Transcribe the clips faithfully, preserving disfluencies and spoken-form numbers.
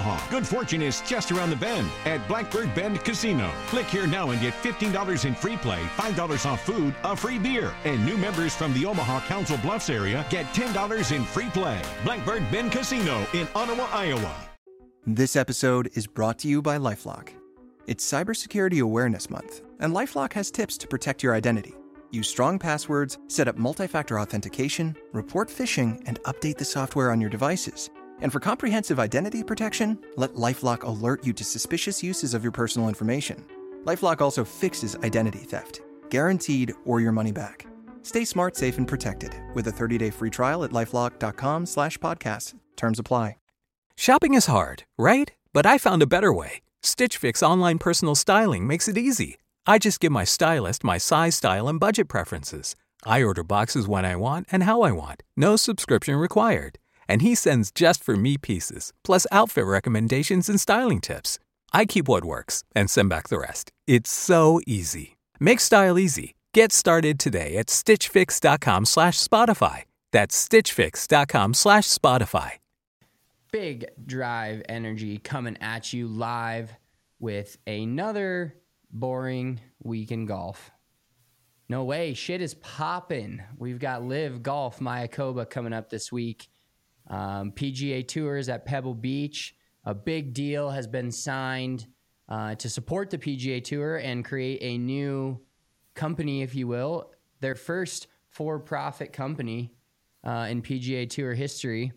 Omaha. Good fortune is just around the bend at Blackbird Bend Casino. Click here now and get fifteen dollars in free play, five dollars off food, a free beer. And new members from the Omaha Council Bluffs area get ten dollars in free play. Blackbird Bend Casino in Ottawa, Iowa. This episode is brought to you by LifeLock. It's Cybersecurity Awareness Month, and LifeLock has tips to protect your identity. Use strong passwords, set up multi-factor authentication, report phishing, and update the software on your devices. And for comprehensive identity protection, let LifeLock alert you to suspicious uses of your personal information. LifeLock also fixes identity theft, guaranteed or your money back. Stay smart, safe, and protected with a thirty-day free trial at LifeLock.com slash podcast. Terms apply. Shopping is hard, right? But I found a better way. Stitch Fix online personal styling makes it easy. I just give my stylist my size, style, and budget preferences. I order boxes when I want and how I want. No subscription required. And he sends just for me pieces, plus outfit recommendations and styling tips. I keep what works and send back the rest. It's so easy. Make style easy. Get started today at stitchfix.com slash Spotify. That's stitchfix.com slash Spotify. Big Drive Energy coming at you live with another boring week in golf. No way, shit is popping. We've got Live Golf Mayakoba coming up this week. Um, P G A Tours at Pebble Beach. A big deal has been signed uh, to support the P G A Tour and create a new company, if you will. Their first for-profit company uh, in P G A Tour history.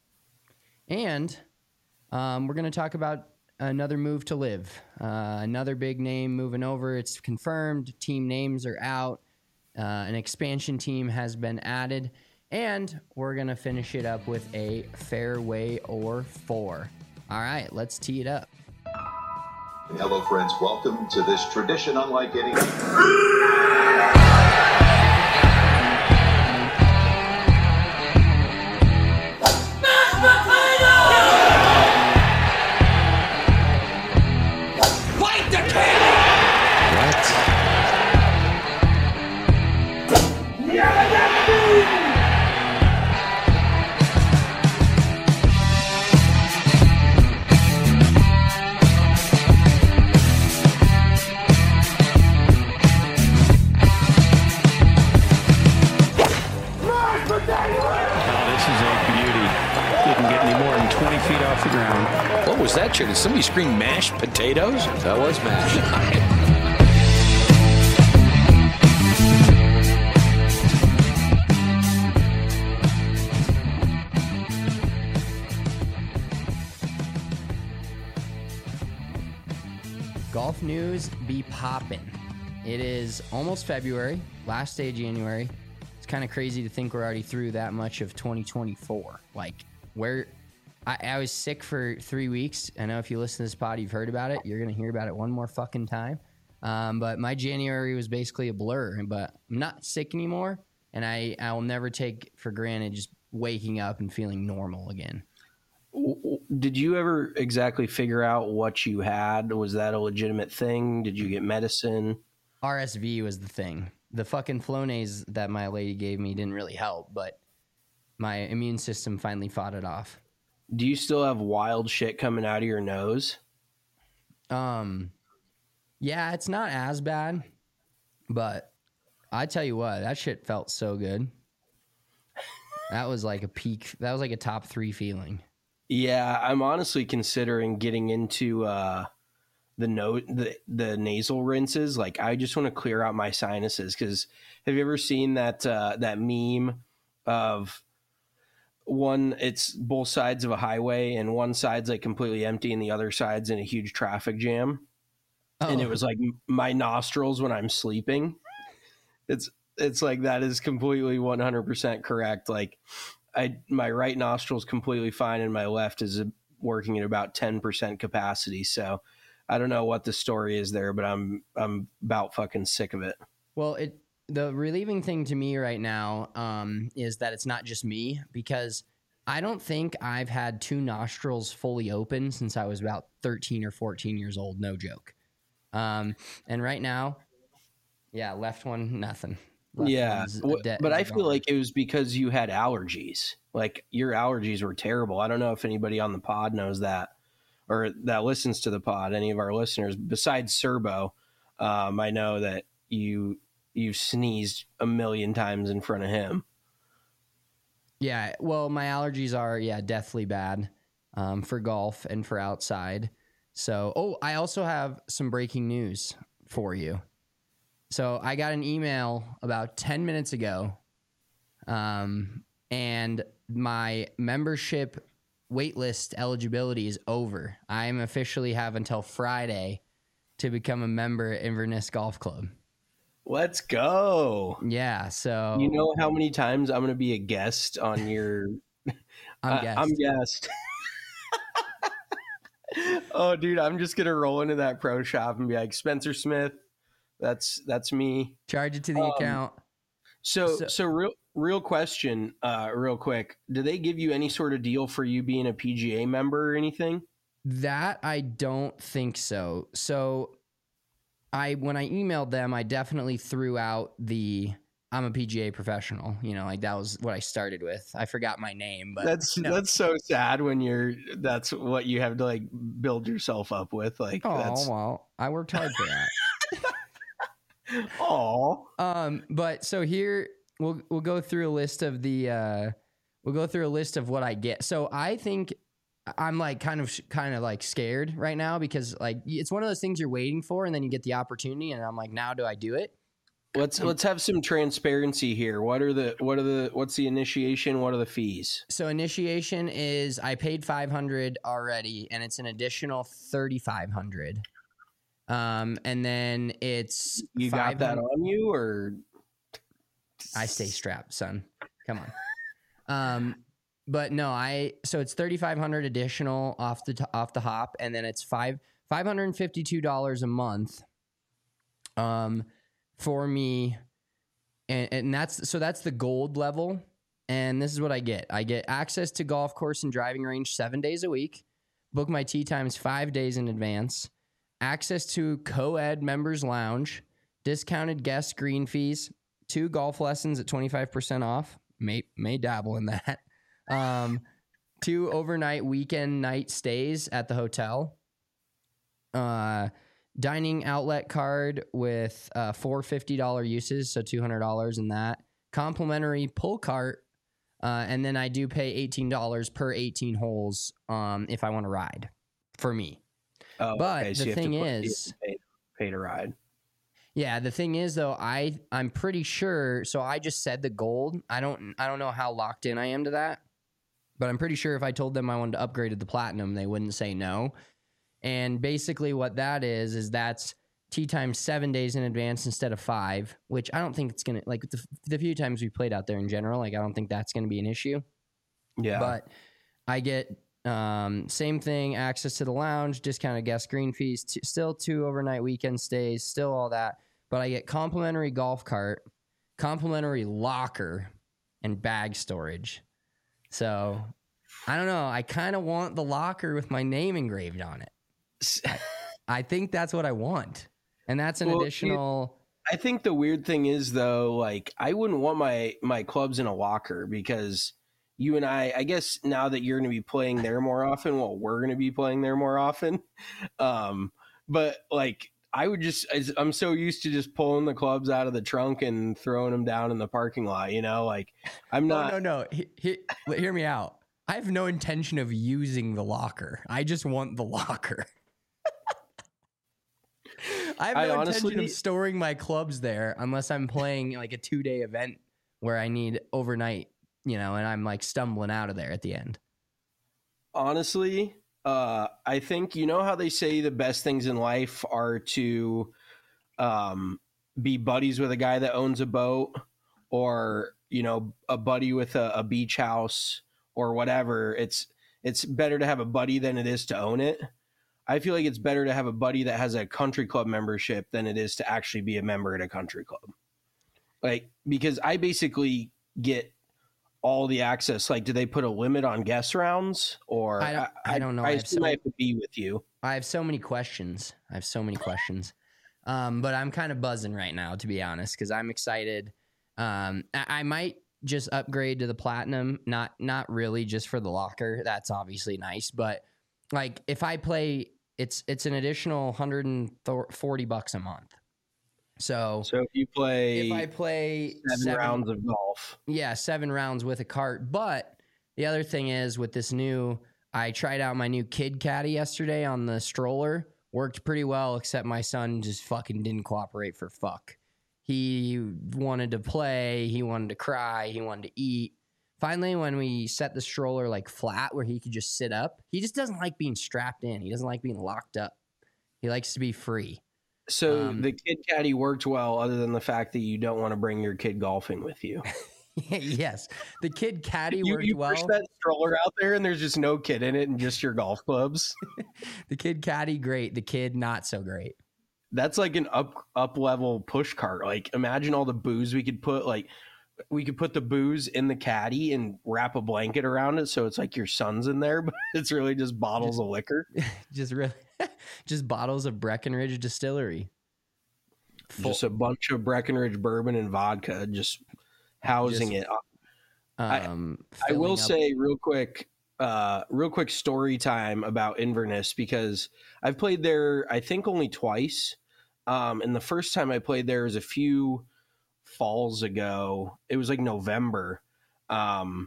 And um, we're going to talk about another move to Live. Uh, another big name moving over. It's confirmed. Team names are out. Uh, an expansion team has been added. And we're going to finish it up with a fairway or four. All right, let's tee it up. Hello, friends. Welcome to this tradition unlike any... What was that, Chair? Did somebody scream mashed potatoes? That was mashed. Golf news be poppin'. It is almost February, last day of January. It's kind of crazy to think we're already through that much of twenty twenty-four. Like, where... I, I was sick for three weeks. I know if you listen to this pod, you've heard about it. You're going to hear about it one more fucking time. Um, but my January was basically a blur. But I'm not sick anymore, and I, I will never take for granted just waking up and feeling normal again. Did you ever exactly figure out what you had? Was that a legitimate thing? Did you get medicine? R S V was the thing. The fucking Flonase that my lady gave me didn't really help, but my immune system finally fought it off. Do you still have wild shit coming out of your nose? Um, yeah, it's not as bad, but I tell you what, that shit felt so good. That was like a peak. That was like a top three feeling. Yeah, I'm honestly considering getting into uh, the no the the nasal rinses. Like, I just want to clear out my sinuses. Because have you ever seen that uh, that meme of one, it's both sides of a highway and one side's like completely empty and the other side's in a huge traffic jam? Oh. And it was like my nostrils when I'm sleeping. It's it's like that is completely one hundred percent correct. Like, I my right nostril's completely fine and my left is working at about ten percent capacity. So I don't know what the story is there, but I'm I'm about fucking sick of it. Well, it the relieving thing to me right now um, is that it's not just me, because I don't think I've had two nostrils fully open since I was about thirteen or fourteen years old. No joke. Um, and right now, yeah, left one, nothing. Left yeah, de- but I feel gone. like it was because you had allergies. Like, your allergies were terrible. I don't know if anybody on the pod knows that. or that listens to the pod, any of our listeners, besides Serbo, um, I know that you you've sneezed a million times in front of him. Yeah, well, my allergies are yeah deathly bad um, for golf and for outside. So, oh, I also have some breaking news for you. So I got an email about ten minutes ago, um, and my membership waitlist eligibility is over. I am officially have until Friday to become a member at Inverness Golf Club. Let's go. Yeah, so you know how many times I'm going to be a guest on your I'm uh, guest. I'm guest. Oh, dude, I'm just going to roll into that pro shop and be like, Spencer Smith, that's that's me. Charge it to the um, account. So, So- so real real question, uh, real quick. Do they give you any sort of deal for you being a P G A member or anything? That I don't think so. So I when I emailed them, I definitely threw out the I'm a P G A professional. You know, like that was what I started with. I forgot my name, but That's no. that's so sad when you're that's what you have to like build yourself up with. Like, Oh, that's well, I worked hard for that. oh, Um, but so here we'll we'll go through a list of the uh, we'll go through a list of what I get. So I think I'm like kind of kind of like scared right now because like it's one of those things you're waiting for, and then you get the opportunity, and I'm like, now do I do it? let's let's have some transparency here. What are the what are the what's the initiation? What are the fees? So initiation is I paid five hundred already, and it's an additional thirty-five hundred. Um, and then it's You got that on you, or I stay strapped, son. Come on. Um, but no, I so it's thirty-five hundred additional off the t- off the hop, and then it's five five hundred and fifty-two dollars a month. Um, for me, and and that's so that's the gold level, and this is what I get. I get access to golf course and driving range seven days a week. Book my tee times five days in advance. Access to co-ed members lounge, discounted guest green fees, two golf lessons at twenty-five percent off. May may dabble in that. Um, two overnight weekend night stays at the hotel. Uh, dining outlet card with uh, four fifty dollars uses, so two hundred dollars in that. Complimentary pull cart, uh, and then I do pay eighteen dollars per eighteen holes um, if I want to ride for me. oh, But okay, so the you have to thing put- you have is- to pay, pay to ride. Yeah, the thing is though, I I'm pretty sure. So I just said the gold. I don't I don't know how locked in I am to that, but I'm pretty sure if I told them I wanted to upgrade to the platinum, they wouldn't say no. And basically, what that is is that's tee time seven days in advance instead of five, which I don't think it's gonna like the, the few times we played out there in general. Like I don't think that's gonna be an issue. Yeah, But I get um, same thing, access to the lounge, discounted guest green fees, t- still two overnight weekend stays, still all that. But I get complimentary golf cart, complimentary locker, and bag storage. So I don't know. I kind of want the locker with my name engraved on it. I, I think that's what I want. And that's an Well, you- additional. I think the weird thing is though, like I wouldn't want my my clubs in a locker because you and I, I guess now that you're going to be playing there more often, well, we're going to be playing there more often. Um, but like I would just, I'm so used to just pulling the clubs out of the trunk and throwing them down in the parking lot. You know, like I'm not. No, no, no. He, he, hear me out. I have no intention of using the locker. I just want the locker. I have I no honestly- intention of storing my clubs there unless I'm playing like a two day event where I need overnight, you know, and I'm like stumbling out of there at the end. Honestly, uh, I think you know how they say the best things in life are to um, be buddies with a guy that owns a boat, or you know, a buddy with a, a beach house or whatever. It's it's better to have a buddy than it is to own it. I feel like it's better to have a buddy that has a country club membership than it is to actually be a member at a country club. Like, because I basically get all the access. Like, do they put a limit on guest rounds, or I don't- I don't know. I I have assume so- I have to be with you. I have so many questions. I have so many questions. Um, but I'm kind of buzzing right now, to be honest, because I'm excited. Um, I, I might just upgrade to the platinum. Not not really just for the locker. That's obviously nice, but Like if I play, it's it's an additional one hundred forty bucks a month. So, so if you play, if I play seven, seven rounds of golf, yeah, seven rounds with a cart. But the other thing is with this new, I tried out my new Kid Caddy yesterday on the stroller. Worked pretty well, except my son just fucking didn't cooperate for fuck. He wanted to play, he wanted to cry, he wanted to eat. Finally, when we set the stroller like flat where he could just sit up, he just doesn't like being strapped in. He doesn't like being locked up. He likes to be free. So um, the Kid Caddy worked well, other than the fact that you don't want to bring your kid golfing with you. Yes, the Kid Caddy you, worked you well. push that stroller out there, and there's just no kid in it, and just your golf clubs. The Kid Caddy, great. The kid, not so great. That's like an up up level push cart. Like imagine all the booze we could put. Like we could put the booze in the caddy and wrap a blanket around it, so it's like your son's in there, but it's really just bottles just, of liquor. Just really, just bottles of Breckenridge Distillery. Full. Just a bunch of Breckenridge bourbon and vodka, just housing just, it. Um, I, I will up. say real quick, uh, real quick story time about Inverness, because I've played there, I think only twice. Um, and the first time I played there was a few falls ago. It was like November. Um,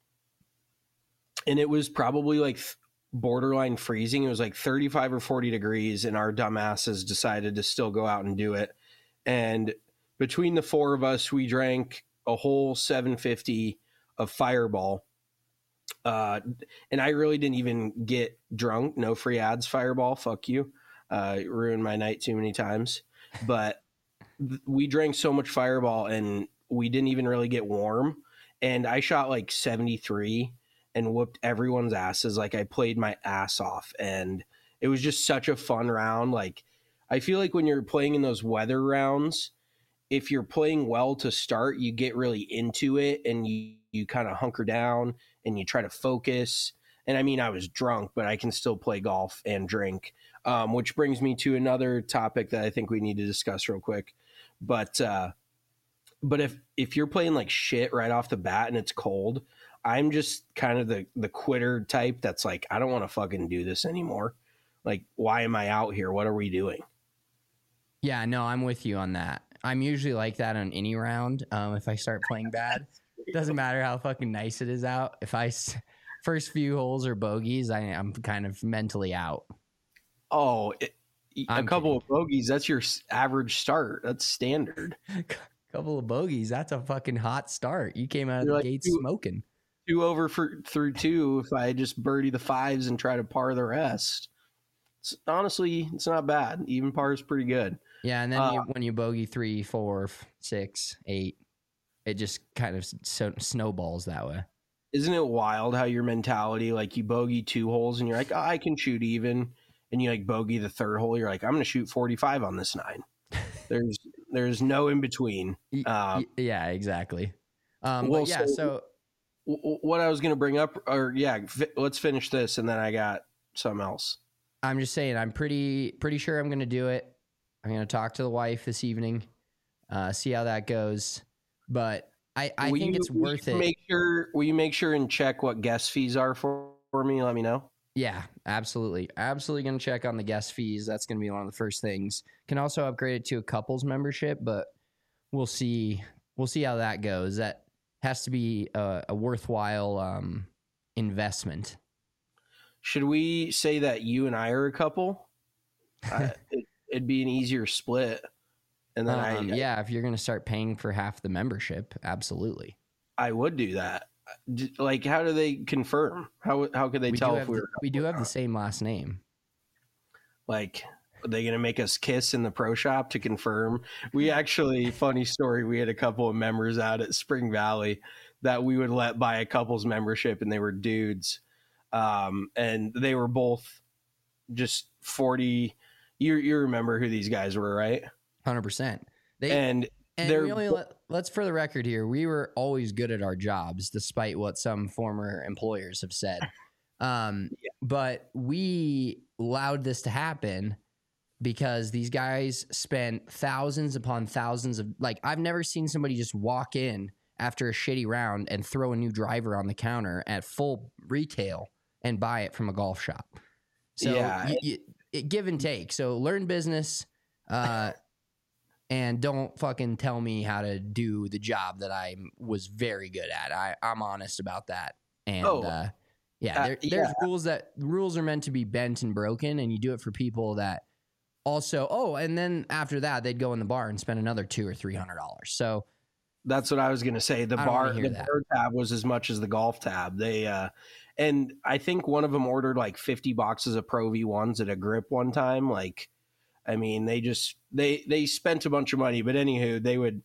and it was probably like borderline freezing. It was like thirty-five or forty degrees, and our dumbasses decided to still go out and do it. And between the four of us, we drank a whole seven fifty of Fireball. Uh, and I really didn't even get drunk. No free ads, Fireball. Fuck you. Uh, ruined my night too many times. But th- we drank so much Fireball, and we didn't even really get warm. And I shot like seventy-three and whooped everyone's asses. Like I played my ass off, and it was just such a fun round. Like I feel like when you're playing in those weather rounds, if you're playing well to start, you get really into it, and you, you kind of hunker down and you try to focus. And I mean, I was drunk, but I can still play golf and drink, um, which brings me to another topic that I think we need to discuss real quick. But, uh, but if, if you're playing like shit right off the bat and it's cold, I'm just kind of the, the quitter type that's like, I don't want to fucking do this anymore. Like, why am I out here? What are we doing? Yeah, no, I'm with you on that. I'm usually like that on any round. Um, if I start playing bad, doesn't matter how fucking nice it is out. If I first few holes are bogeys, I, I'm kind of mentally out. Oh, it, a I'm couple kidding. of bogeys, that's your average start. That's standard. Couple of bogeys, that's a fucking hot start. You came out of You're the like gates two, smoking. Two over for, through two if I just birdie the fives and try to par the rest. It's, honestly, it's not bad. Even par is pretty good. Yeah, and then uh, you, when you bogey three, four, six, eight, it just kind of so, snowballs that way. Isn't it wild how your mentality, like you bogey two holes and you're like, oh, I can shoot even, and you like bogey the third hole, you're like, I'm going to shoot forty-five on this nine. There's there's no in between. Um, yeah, exactly. Um, well, but yeah, so, so w- what I was going to bring up, or yeah, fi- let's finish this, and then I got something else. I'm just saying, I'm pretty pretty sure I'm going to do it. I'm going to talk to the wife this evening, uh, see how that goes. But I, I will think you, it's worth it. Make sure, will you make sure and check what guest fees are for, for me? Let me know. Yeah, absolutely. Absolutely going to check on the guest fees. That's going to be one of the first things. Can also upgrade it to a couples membership, but we'll see. We'll see how that goes. That has to be a, a worthwhile um, investment. Should we say that you and I are a couple? uh, it, it'd be an easier split. And then um, I, yeah, if you're going to start paying for half the membership, absolutely. I would do that. Like, how do they confirm? How how could they we tell do if we the, were? We do have the same last name. Like, are they going to make us kiss in the pro shop to confirm? We actually, funny story, we had a couple of members out at Spring Valley that we would let buy a couple's membership, and they were dudes. Um, and they were both just forty. You you remember who these guys were, right? one hundred percent. They, and and they're we only let, let's for the record here, we were always good at our jobs, despite what some former employers have said. Um, yeah. But we allowed this to happen because these guys spent thousands upon thousands of, like, I've never seen somebody just walk in after a shitty round and throw a new driver on the counter at full retail and buy it from a golf shop. So Yeah. you, you, it, give and take. So learn business, uh, and don't fucking tell me how to do the job that I was very good at. I, I'm honest about that. And Oh, uh, yeah, uh, there, yeah. there's rules that rules are meant to be bent and broken, and you do it for people that also. Oh, and then after that, they'd go in the bar and spend another two or three hundred dollars. So That's what I was going to say. The I don't bar, wanna hear the that. bar tab was as much as the golf tab. They, uh, and I think one of them ordered like fifty boxes of Pro V ones at a grip one time. Like, I mean, they just, they, they spent a bunch of money, but anywho, they would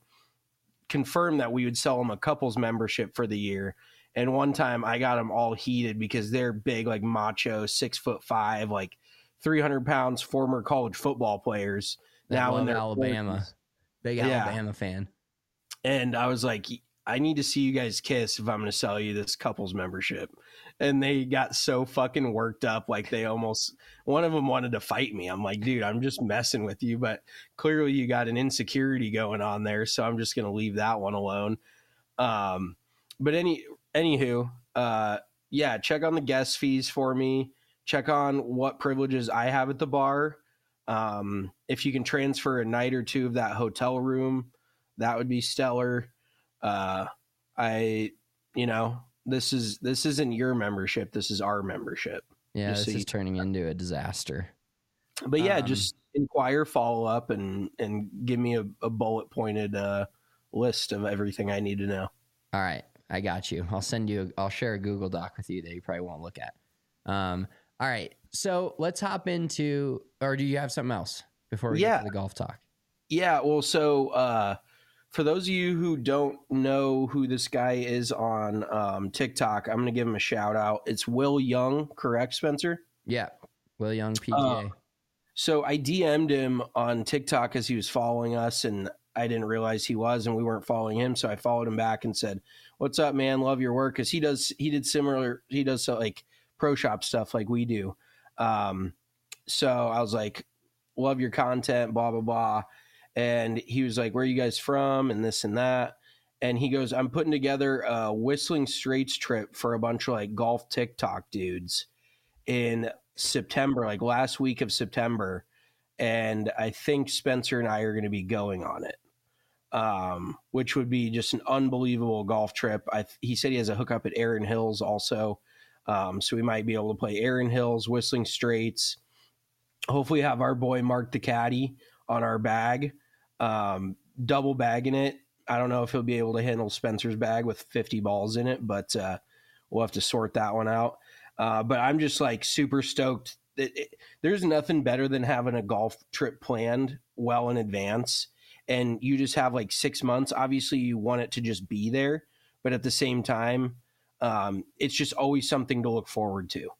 confirm that we would sell them a couples membership for the year. And one time I got them all heated because they're big, like macho, six foot five, like three hundred pounds, former college football players. That now in love their Alabama, forties. big Yeah. Alabama fan. And I was like, I need to see you guys kiss if I'm going to sell you this couples membership. And they got so fucking worked up. Like they almost, one of them wanted to fight me. I'm like, dude, I'm just messing with you. But clearly you got an insecurity going on there. So I'm just going to leave that one alone. Um, but any, anywho, uh, yeah, check on the guest fees for me. Check on what privileges I have at the bar. Um, if you can transfer a night or two of that hotel room, that would be stellar. Uh, I, you know, this is, this isn't your membership. This is our membership. Yeah, Just this so is you- turning into a disaster. But yeah, Um, just inquire, follow up, and, and give me a, a bullet pointed, uh, list of everything I need to know. All right, I got you. I'll send you. A, I'll share a Google Doc with you that you probably won't look at. Um, all right, so let's hop into. Or do you have something else before we Yeah. get to the golf talk? Yeah. Well, so, uh, for those of you who don't know who this guy is on um, TikTok, I'm going to give him a shout out. It's Will Young, correct, Spencer? Yeah, Will Young P G A. Uh, So I D M'd him on TikTok as he was following us, and I didn't realize he was, and we weren't following him. So I followed him back and said, "What's up, man? Love your work." Because he does, he did similar, he does so, like pro shop stuff like we do. Um, so I was like, "Love your content," blah blah blah. And he was like, "Where are you guys from?" And this and that. And he goes, "I'm putting together a Whistling Straits trip for a bunch of like golf TikTok dudes in September, like last week of September. And I think Spencer and I are going to be going on it, um, which would be just an unbelievable golf trip. I, he said he has a hookup at Erin Hills also. Um, so we might be able to play Erin Hills, Whistling Straits. Hopefully have our boy Mark the Caddy on our bag, um, double bagging it. I don't know if he'll be able to handle Spencer's bag with fifty balls in it, but uh, we'll have to sort that one out. Uh, but I'm just like super stoked. It, it, there's nothing better than having a golf trip planned well in advance, and you just have like six months. Obviously, you want it to just be there, but at the same time, um, it's just always something to look forward to.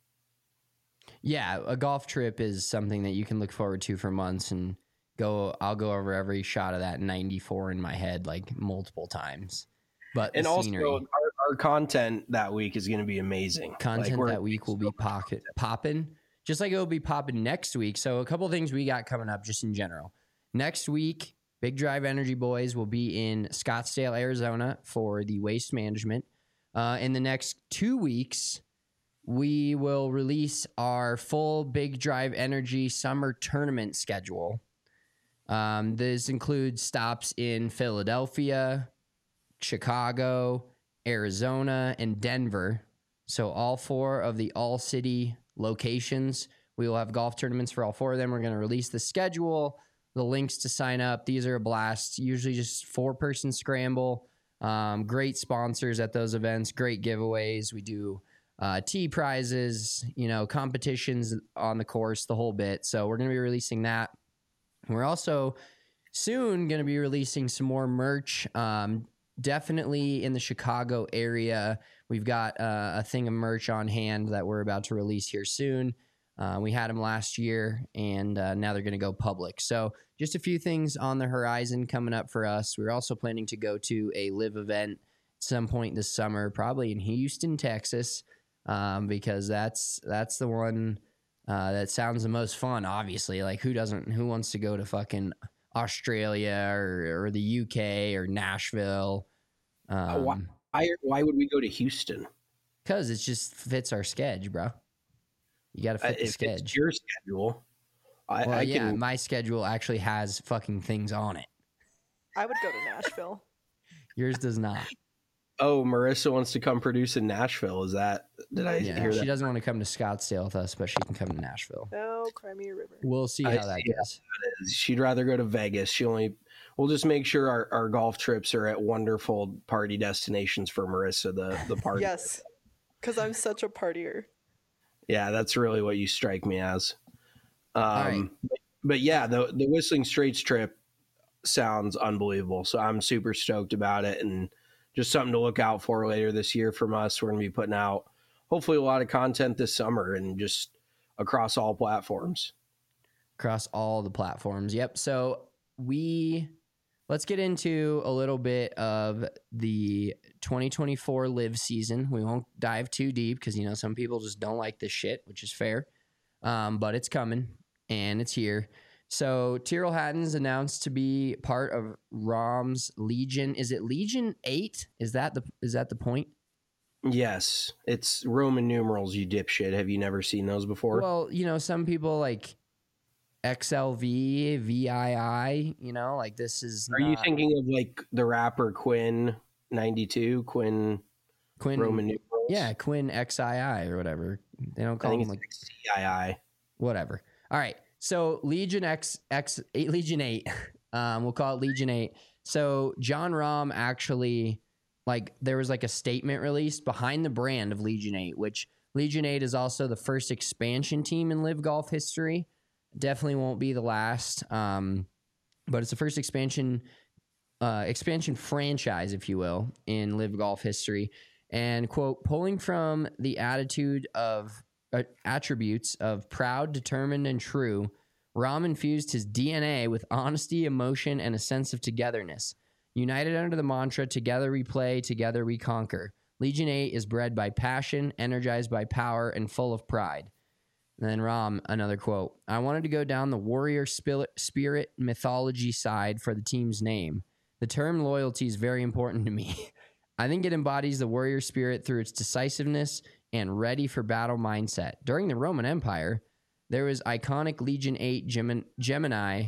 Yeah, a golf trip is something that you can look forward to for months and go. I'll go over every shot of that ninety-four in my head like multiple times. But And the also, scenery, our, our content that week is going to be amazing. content Like, we're- that week will be pocket popping, just like it will be popping next week. So a couple of things we got coming up just in general. Next week, Big Drive Energy Boys will be in Scottsdale, Arizona for the waste management. Uh, in the next two weeks, we will release our full Big Drive Energy summer tournament schedule. Um, this includes stops in Philadelphia, Chicago, Arizona, and Denver. So all four of the all-city locations, we will have golf tournaments for all four of them. We're going to release the schedule, the links to sign up. These are a blast. Usually just four-person scramble. Um, great sponsors at those events. Great giveaways. We do uh, tee prizes, you know, competitions on the course, the whole bit. So we're going to be releasing that. We're also soon going to be releasing some more merch. Um, definitely in the Chicago area. We've got uh, a thing of merch on hand that we're about to release here soon. Uh, we had them last year, and uh, now they're going to go public. So just a few things on the horizon coming up for us. We're also planning to go to a live event at some point this summer, probably in Houston, Texas, um, because that's that's the one uh, that sounds the most fun. Obviously, like who doesn't? Who wants to go to fucking Australia or, or the U K or Nashville? Um, why, why, why would we go to Houston? Because it just fits our schedule, bro. You got to fit Uh, the if schedule. it's your schedule, I, Well, I yeah, can. my schedule actually has fucking things on it. I would go to Nashville. Yours does not. Oh, Marissa wants to come produce in Nashville. Is that? Did I Yeah, hear she that? doesn't want to come to Scottsdale with us, but she can come to Nashville. Oh, Crimea River. We'll see I how that see goes. She'd rather go to Vegas. She only. We'll just make sure our, our golf trips are at wonderful party destinations for Marissa. The the party. Yes, because I'm such a partier. Yeah, that's really what you strike me as. Um, right. but, but yeah, the the Whistling Straits trip sounds unbelievable. So I'm super stoked about it, and just something to look out for later this year from us. We're going to be putting out hopefully a lot of content this summer and just across all platforms. Across all the platforms. Yep. So we let's get into a little bit of the twenty twenty-four live season. We won't dive too deep because, you know, some people just don't like this shit, which is fair. Um, but it's coming and it's here. So Tyrrell Hatton's announced to be part of Rom's Legion. Is it Legion eight? Is that the is that the point? Yes, it's Roman numerals, you dipshit. Have you never seen those before? Well, you know, some people like X L V, V I I, you know, like this is Are you not- thinking of like the rapper Quinn ninety-two, Quinn Quinn Roman numerals? Yeah, Quinn X I I or whatever. They don't I call think him it's like C I I. whatever. All right. So Legion X X eight Legion eight. Um, we'll call it Legion eight. So John Rahm actually, like, there was like a statement released behind the brand of Legion eight, which Legion eight is also the first expansion team in Live Golf history. Definitely won't be the last. Um, but it's the first expansion uh, expansion franchise, if you will, in Live Golf history. And quote, pulling from the attitude of uh, attributes of proud, determined, and true, Rahm infused his D N A with honesty, emotion, and a sense of togetherness. United under the mantra, together we play, together we conquer. Legion eight is bred by passion, energized by power, and full of pride. And then Rahm, another quote, I wanted to go down the warrior spirit mythology side for the team's name. The term loyalty is very important to me. I think it embodies the warrior spirit through its decisiveness and ready for battle mindset. During the Roman Empire, there was iconic Legion eight Gemin- Gemini,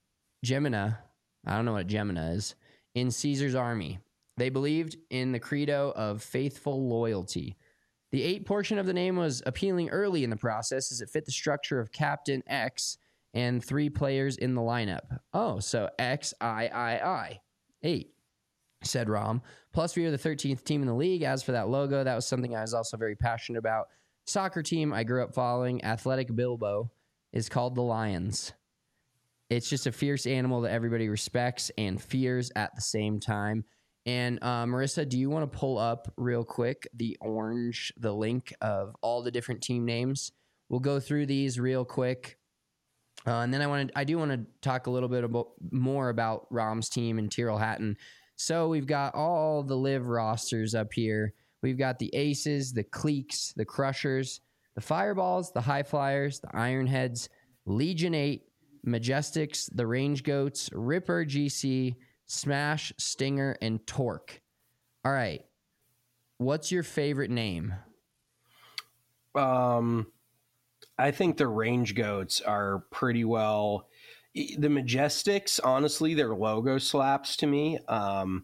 Gemina, I don't know what Gemina is, in Caesar's army. They believed in the credo of faithful loyalty. The eight portion of the name was appealing early in the process as it fit the structure of Captain X and three players in the lineup. Oh, so X I I I, eight, said Rahm. Plus, we are the thirteenth team in the league. As for that logo, that was something I was also very passionate about. Soccer team I grew up following, Athletic Bilbao, is called the Lions. It's just a fierce animal that everybody respects and fears at the same time. And uh, Marissa, do you want to pull up real quick the orange, the link of all the different team names? We'll go through these real quick. Uh, and then I want to, I do want to talk a little bit about more about Rahm's team and Tyrrell Hatton. So we've got all the live rosters up here. We've got the Aces, the Cliques, the Crushers, the Fireballs, the High Flyers, the Ironheads, Legion eight, Majestics, the Range Goats, Ripper G C, Smash, Stinger, and Torque. All right. What's your favorite name? Um, I think the Range Goats are pretty well. The Majestics, honestly, their logo slaps to me. Um,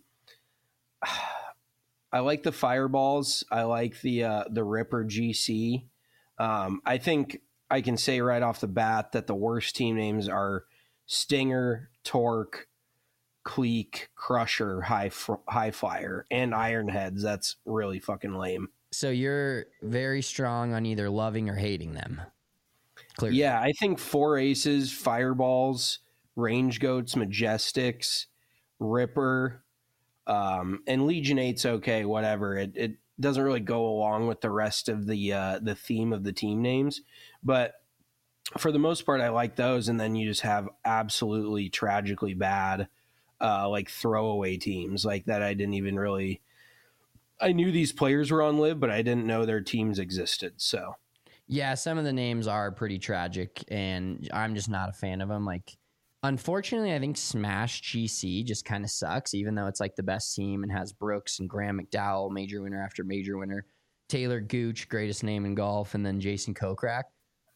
I like the Fireballs. I like the uh, the Ripper G C. Um, I think I can say right off the bat that the worst team names are Stinger, Torque, Clique, Crusher, High F- High Flyer, and Ironheads. That's really fucking lame. So you're very strong on either loving or hating them. Clearly. Yeah, I think four Aces, Fireballs, Range Goats, Majestics, Ripper, um, and Legion eight's okay, whatever. It it doesn't really go along with the rest of the uh, the theme of the team names, but for the most part, I like those. And then you just have absolutely tragically bad, uh, like throwaway teams like that. I didn't even really. I knew these players were on Live, but I didn't know their teams existed. So. Yeah, some of the names are pretty tragic, and I'm just not a fan of them. Like, unfortunately, I think Smash G C just kind of sucks, even though it's like the best team and has Brooks and Graham McDowell, major winner after major winner, Taylor Gooch, greatest name in golf, and then Jason Kokrak.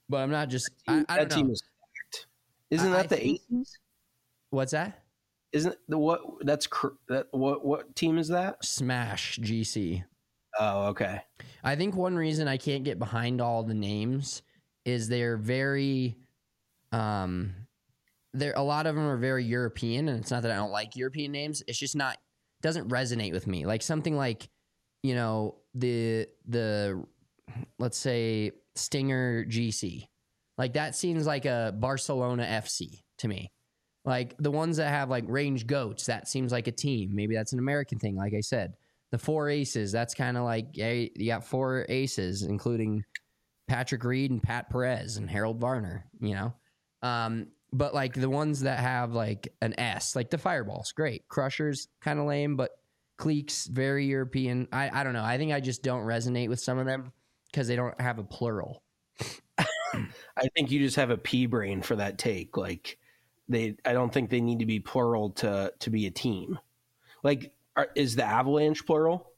But I'm not just. I, I that don't team know. is stacked. Isn't I- that I the think- Aces? What's that? Isn't the what? That's cr- that. What what team is that? Smash G C. Oh, okay. I think one reason I can't get behind all the names is they're very, um, there a lot of them are very European, and it's not that I don't like European names. It's just not doesn't resonate with me. Like something like, you know, the the let's say Stinger G C, like that seems like a Barcelona F C to me. Like the ones that have like Range Goats, that seems like a team. Maybe that's an American thing. Like I said, the Four Aces, that's kind of like, hey, you got four aces, including Patrick Reed and Pat Perez and Harold Varner, you know? Um, but like the ones that have like an S, like the Fireballs, great. Crushers, kind of lame, but Cleeks, very European. I, I don't know. I think I just don't resonate with some of them because they don't have a plural. I think you just have a pea brain for that take. Like they, I don't think they need to be plural to to be a team. Like, are, is the Avalanche plural?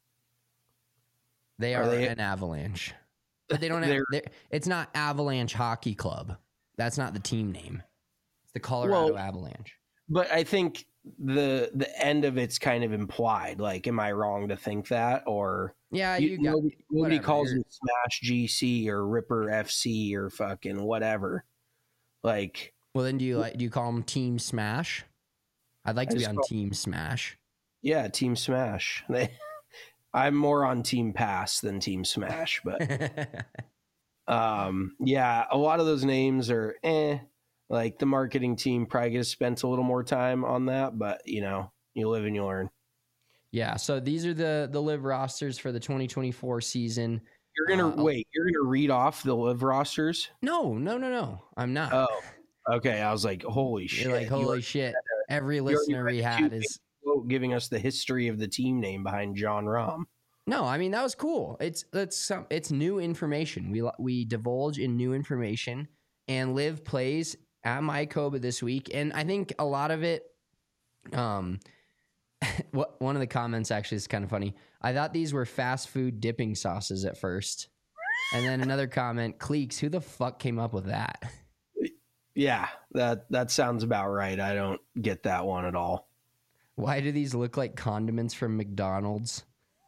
They Are are, they- an Avalanche, but they don't have. They're- they're- It's not Avalanche Hockey Club. That's not the team name. It's the Colorado Well- Avalanche. But I think the the end of it's kind of implied. Like, am I wrong to think that? Or Yeah, you, you, got nobody, nobody whatever, calls you're- them Smash G C or Ripper F C or fucking whatever. Like, Well, then do you like? Do you call them Team Smash? I'd like I to be just on call- Team Smash. yeah, Team Smash. They, I'm more on Team Pass than Team Smash, but um, yeah, a lot of those names are eh. Like the marketing team probably could have spent a little more time on that, but you know, you live and you learn. Yeah. So these are the the live rosters for the twenty twenty-four season. You're gonna Uh, wait. You're gonna read off the live rosters. No, no, no, no. I'm not. Oh, okay. I was like, holy shit! You're like, You holy are shit. Every already listener we read had two is. giving us the history of the team name behind John Rahm. No, I mean that was cool. It's that's some it's new information. We we divulge in new information, and Liv plays at Mycoba this week, and I think a lot of it. Um, what one of the comments actually is kind of funny. I thought these were fast food dipping sauces at first, and then another comment: Cleeks, who the fuck came up with that? Yeah, that that sounds about right. I don't get that one at all. Why do these look like condiments from McDonald's?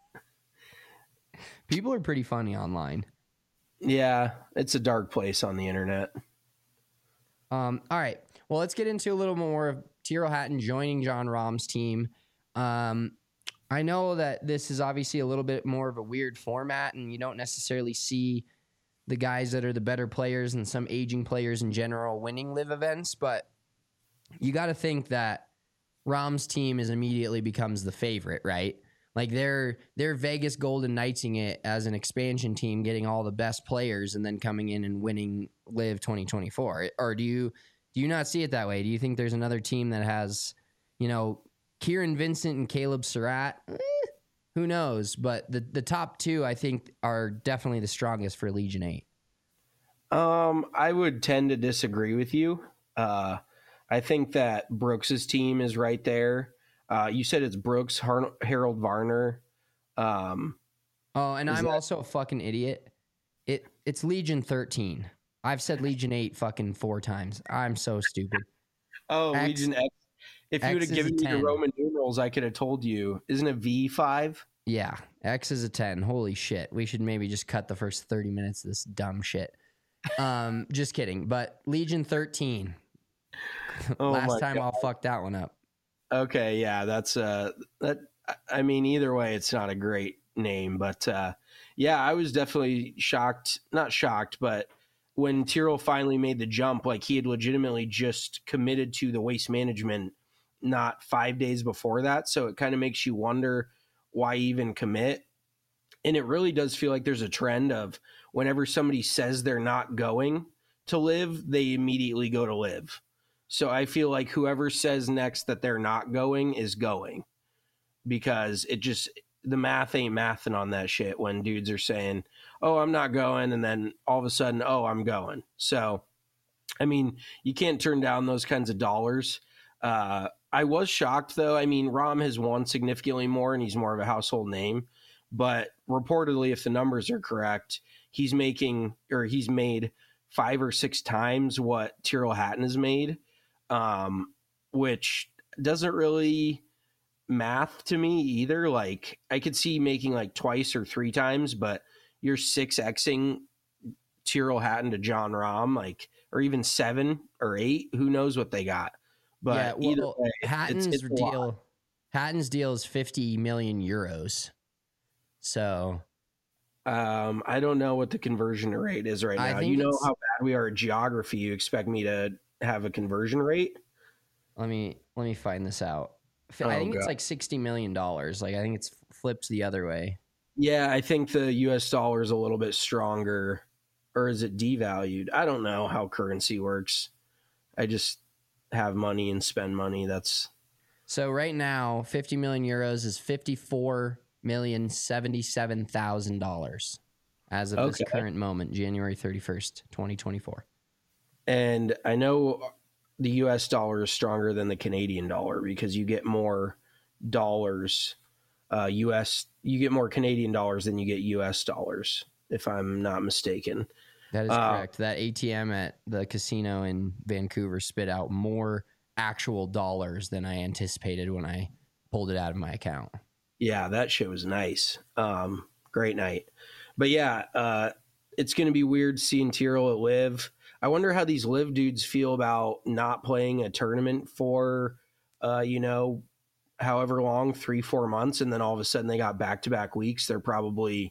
People are pretty funny online. Yeah, it's a dark place on the internet. Um, all right. Well, let's get into a little more of Tyrrell Hatton joining John Rahm's team. Um, I know that this is obviously a little bit more of a weird format, and you don't necessarily see the guys that are the better players and some aging players in general winning live events, but you got to think that Rahm's team is immediately becomes the favorite, right? Like they're they're Vegas Golden Knightsing it as an expansion team, getting all the best players and then coming in and winning Live twenty twenty-four. Or do you do you not see it that way? Do you think there's another team that has, you know, Kieran Vincent and Caleb Surratt? Eh, who knows? But the the top two, I think, are definitely the strongest for Legion eight. Um, I would tend to disagree with you. Uh, I think that Brooks's team is right there. Uh, you said it's Brooks, Har- Harold Varner. Um, Oh, and Is I'm that- also a fucking idiot. It it's Legion thirteen. I've said Legion eight fucking four times. I'm so stupid. oh, X- Legion X. If you X would have is given a me the ten. Roman numerals, I could have told you. Isn't it V five? Yeah, X is a ten. Holy shit. We should maybe just cut the first thirty minutes of this dumb shit. Um, just kidding. But Legion thirteen. Oh Last my time God. I'll fuck that one up. Okay, yeah, that's uh that I mean either way it's not a great name, but uh yeah, I was definitely shocked, not shocked, but when Tyrrell finally made the jump, like he had legitimately just committed to the waste management not five days before that, so it kind of makes you wonder why even commit. And it really does feel like there's a trend of whenever somebody says they're not going to live, they immediately go to live. So I feel like whoever says next that they're not going is going, because it just, the math ain't mathing on that shit when dudes are saying, oh, I'm not going. And then all of a sudden, oh, I'm going. So, I mean, you can't turn down those kinds of dollars. Uh, I was shocked though. I mean, Rahm has won significantly more and he's more of a household name, but reportedly, if the numbers are correct, he's making, or he's made five or six times what Tyrrell Hatton has made, um, which doesn't really math to me either. Like I could see making like twice or three times, but you're six Xing Tyrrell Hatton to John Rahm, like, or even seven or eight. Who knows what they got? But yeah, well, either way, Hatton's it's, it's deal, Hatton's deal is fifty million euros. So, um, I don't know what the conversion rate is right I now. think You know it's- how bad we are at geography. You expect me to have a conversion rate? let me let me find this out. F- Oh, I think it's God. like sixty million dollars. Like I think it's flipped the other way. Yeah, I think the U S dollar is a little bit stronger, or is it devalued? I don't know how currency works. I just have money and spend money. That's So right now, fifty million euros is fifty-four million seventy-seven thousand dollars as of this Okay. current moment, January thirty-first, twenty twenty-four. and I know the U S dollar is stronger than the Canadian dollar because you get more dollars, uh, U S. You get more Canadian dollars than you get U S dollars, if I'm not mistaken. That is Uh, correct. That A T M at the casino in Vancouver spit out more actual dollars than I anticipated when I pulled it out of my account. Yeah, that shit was nice. Um, great night. But yeah, uh, it's going to be weird seeing Tyrrell at Live. I wonder how these Live dudes feel about not playing a tournament for, uh, you know, however long, three, four months, and then all of a sudden they got back-to-back weeks. They're probably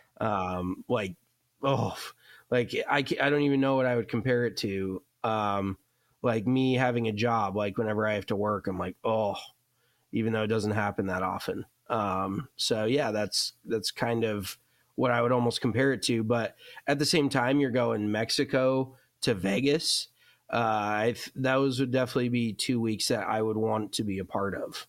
um, like, oh, like I, ca- I don't even know what I would compare it to. Um, like me having a job, like whenever I have to work, I'm like, oh, even though it doesn't happen that often. Um, so yeah, that's that's kind of what I would almost compare it to. But at the same time, you're going Mexico to Vegas. Uh, I th- those would definitely be two weeks that I would want to be a part of.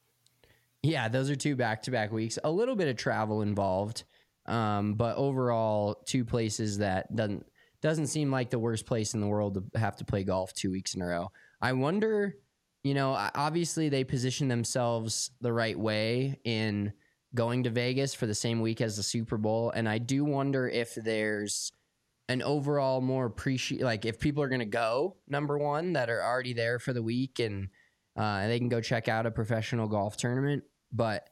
Yeah, those are two back-to-back weeks. A little bit of travel involved, um, but overall, two places that doesn't doesn't seem like the worst place in the world to have to play golf two weeks in a row. I wonder, you know, obviously they position themselves the right way in going to Vegas for the same week as the Super Bowl, and I do wonder if there's an overall more appreciate, like if people are going to go, number one, that are already there for the week and uh, they can go check out a professional golf tournament. But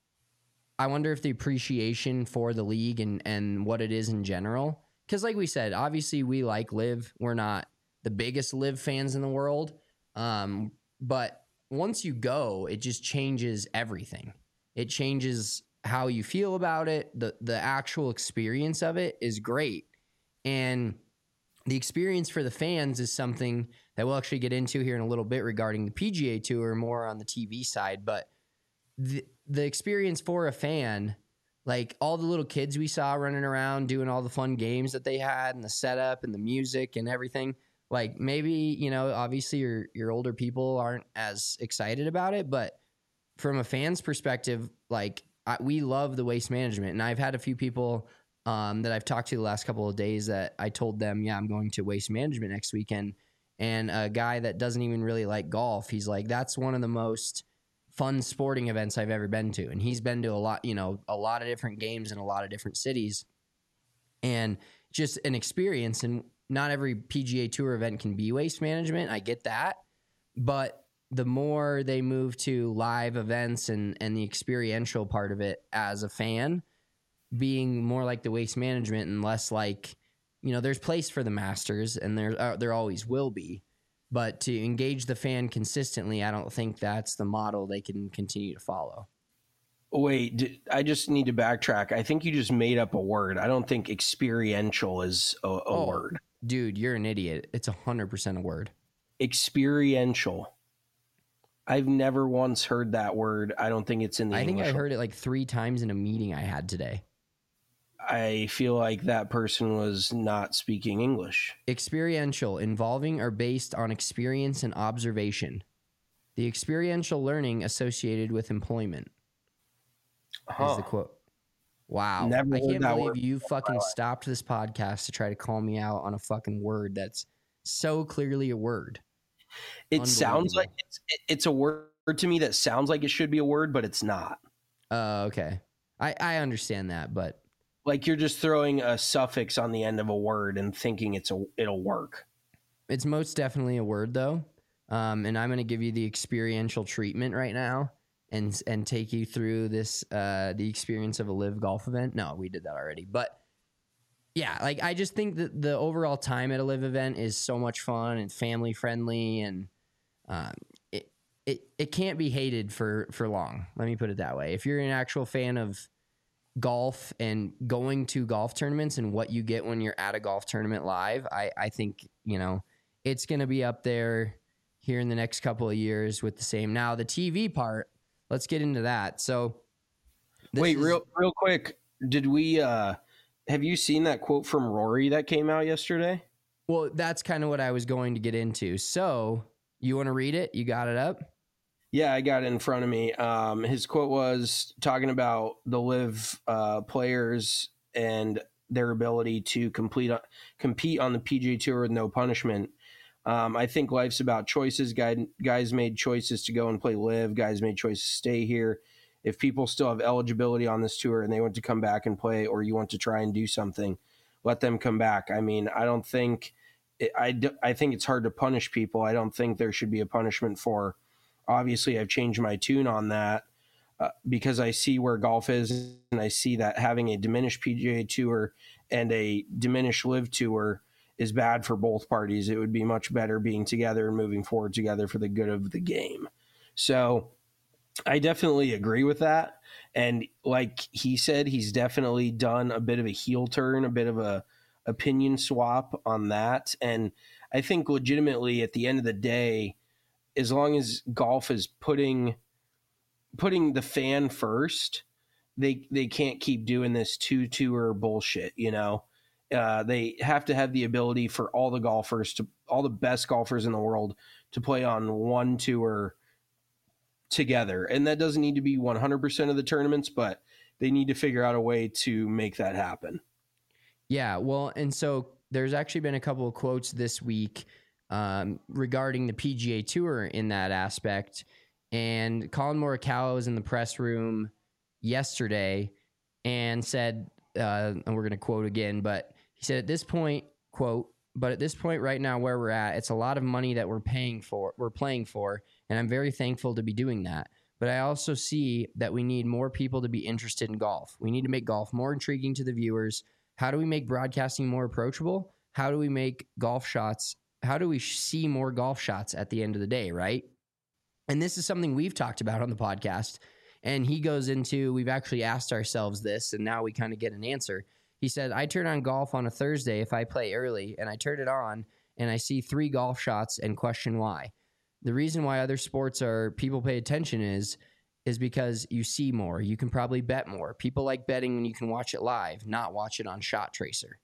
I wonder if the appreciation for the league and, and what it is in general, because like we said, obviously we like Live. We're not the biggest Live fans in the world. Um, but once you go, it just changes everything. It changes how you feel about it. The, the actual experience of it is great. And the experience for the fans is something that we'll actually get into here in a little bit regarding the P G A Tour, more on the T V side. But the the experience for a fan, like all the little kids we saw running around doing all the fun games that they had and the setup and the music and everything, like maybe, you know, obviously your your older people aren't as excited about it, but from a fan's perspective, like I, we love the Waste Management. And I've had a few people um, that I've talked to the last couple of days that I told them, yeah, I'm going to Waste Management next weekend. And a guy that doesn't even really like golf, he's like, that's one of the most fun sporting events I've ever been to. And he's been to a lot, you know, a lot of different games in a lot of different cities. And just an experience. And not every P G A Tour event can be Waste Management. I get that. But the more they move to live events and, and the experiential part of it as a fan, being more like the Waste Management and less like, you know, there's place for the Masters and there uh, there always will be, but to engage the fan consistently, I don't think that's the model they can continue to follow. Wait, d- I just need to backtrack. I think you just made up a word. I don't think experiential is a, a Oh, word. Dude, you're an idiot. It's one hundred percent a word. Experiential. I've never once heard that word. I don't think it's in the I think English. I heard it like three times in a meeting I had today. I feel like that person was not speaking English. Experiential, involving or based on experience and observation. The experiential learning associated with employment. Huh. Is the quote. Wow. Never I heard can't that believe word you fucking stopped this podcast to try to call me out on a fucking word that's so clearly a word. It sounds Unbelievable. like it's, it- it's a word to me that sounds like it should be a word, but it's not. Uh, okay. I, I understand that, but Like you're just throwing a suffix on the end of a word and thinking it's a it'll work. It's most definitely a word, though. Um, and I'm going to give you the experiential treatment right now and and take you through this uh, the experience of a live golf event. No, we did that already. But, yeah, like I just think that the overall time at a live event is so much fun and family-friendly, and um, it, it, it can't be hated for, for long. Let me put it that way. If you're an actual fan of golf and going to golf tournaments and what you get when you're at a golf tournament live, I, I think, you know, it's going to be up there here in the next couple of years with the same. Now, the T V part, let's get into that. So, wait, is, real, real quick. Did we, uh, have you seen that quote from Rory that came out yesterday? Well, that's kind of what I was going to get into. So, you want to read it? You got it up? Yeah, I got it in front of me. Um, his quote was talking about the live uh, players and their ability to complete compete on the P G A Tour with no punishment. Um, I think life's about choices. Guy, guys made choices to go and play live. Guys made choices to stay here. If people still have eligibility on this tour and they want to come back and play, or you want to try and do something, let them come back. I mean, I don't think it, I, I think it's hard to punish people. I don't think there should be a punishment for. Obviously, I've changed my tune on that uh, because I see where golf is, and I see that having a diminished P G A Tour and a diminished live tour is bad for both parties. It would be much better being together and moving forward together for the good of the game. So I definitely agree with that. And like he said, he's definitely done a bit of a heel turn, a bit of a opinion swap on that. And I think legitimately at the end of the day, as long as golf is putting putting the fan first, they they can't keep doing this two tour bullshit. You know, uh, they have to have the ability for all the golfers to all the best golfers in the world to play on one tour together, and that doesn't need to be one hundred percent of the tournaments, but they need to figure out a way to make that happen. Yeah, well, and so there's actually been a couple of quotes this week Um, regarding the P G A Tour in that aspect. And Colin Morikawa was in the press room yesterday and said, uh, and we're going to quote again, but he said at this point, quote, but at this point right now where we're at, it's a lot of money that we're paying for, we're playing for, and I'm very thankful to be doing that. But I also see that we need more people to be interested in golf. We need to make golf more intriguing to the viewers. How do we make broadcasting more approachable? How do we make golf shots How do we see more golf shots at the end of the day, right? And this is something we've talked about on the podcast. And he goes into, we've actually asked ourselves this, and now we kind of get an answer. He said, I turn on golf on a Thursday if I play early, and I turn it on, and I see three golf shots and question why. The reason why other sports are people pay attention is, is because you see more. You can probably bet more. People like betting when you can watch it live, not watch it on Shot Tracer.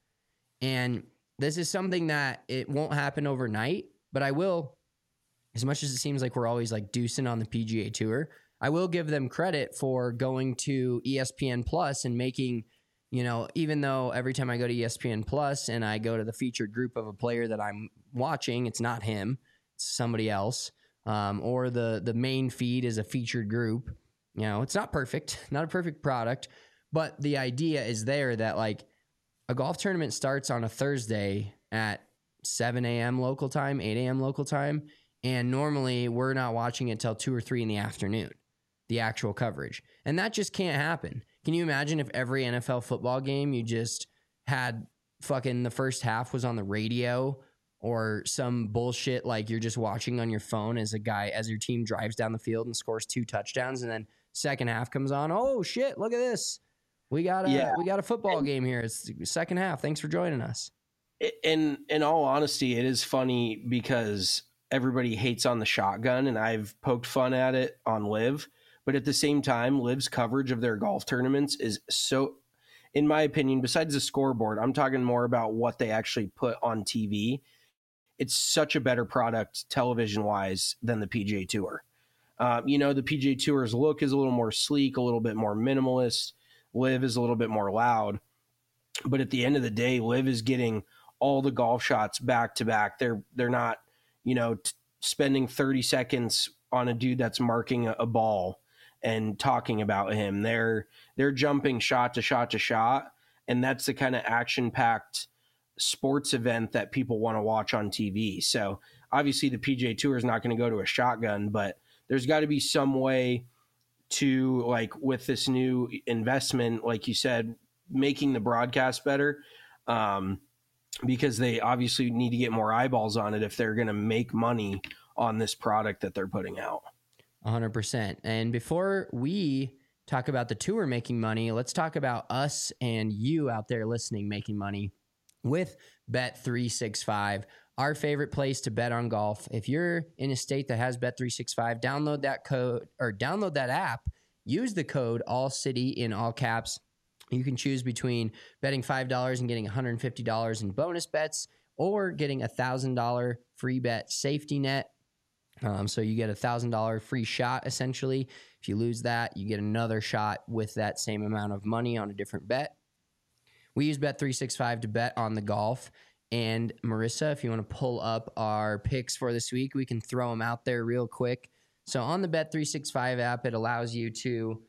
And this is something that it won't happen overnight, but I will, as much as it seems like we're always like deucing on the P G A Tour, I will give them credit for going to E S P N Plus and making, you know, even though every time I go to E S P N Plus and I go to the featured group of a player that I'm watching, it's not him, it's somebody else, um, or the, the main feed is a featured group. You know, it's not perfect, not a perfect product, but the idea is there that like, a golf tournament starts on a Thursday at seven a.m. local time, eight a.m. local time, and normally we're not watching it till two or three in the afternoon, the actual coverage. And that just can't happen. Can you imagine if every N F L football game you just had fucking the first half was on the radio or some bullshit like you're just watching on your phone as a guy, as your team drives down the field and scores two touchdowns, and then second half comes on, oh shit, look at this. We got a yeah. we got a football game here. It's the second half. Thanks for joining us. In in all honesty, it is funny because everybody hates on the shotgun, and I've poked fun at it on Live. But at the same time, Live's coverage of their golf tournaments is so, in my opinion, besides the scoreboard, I'm talking more about what they actually put on T V. It's such a better product television-wise than the P G A Tour. Uh, you know, the P G A Tour's look is a little more sleek, a little bit more minimalist. Live is a little bit more loud, but at the end of the day, Live is getting all the golf shots back to back. They're they're not, you know, t- spending thirty seconds on a dude that's marking a, a ball and talking about him. They're they're jumping shot to shot to shot, and that's the kind of action-packed sports event that people want to watch on T V. So obviously the P G A Tour is not going to go to a shotgun, but there's got to be some way to, like, with this new investment, like you said, making the broadcast better, um, because they obviously need to get more eyeballs on it if they're going to make money on this product that they're putting out. one hundred percent. And before we talk about the tour making money, let's talk about us and you out there listening making money with Bet three sixty-five, our favorite place to bet on golf. If you're in a state that has Bet three sixty-five, download that code or download that app. Use the code ALLCITY in all caps. You can choose between betting five dollars and getting one hundred fifty dollars in bonus bets, or getting a one thousand dollars free bet safety net. Um, so you get a one thousand dollars free shot, essentially. If you lose that, you get another shot with that same amount of money on a different bet. We use Bet three sixty-five to bet on the golf. And Marissa, if you want to pull up our picks for this week, we can throw them out there real quick. So on the Bet three sixty-five app, it allows you to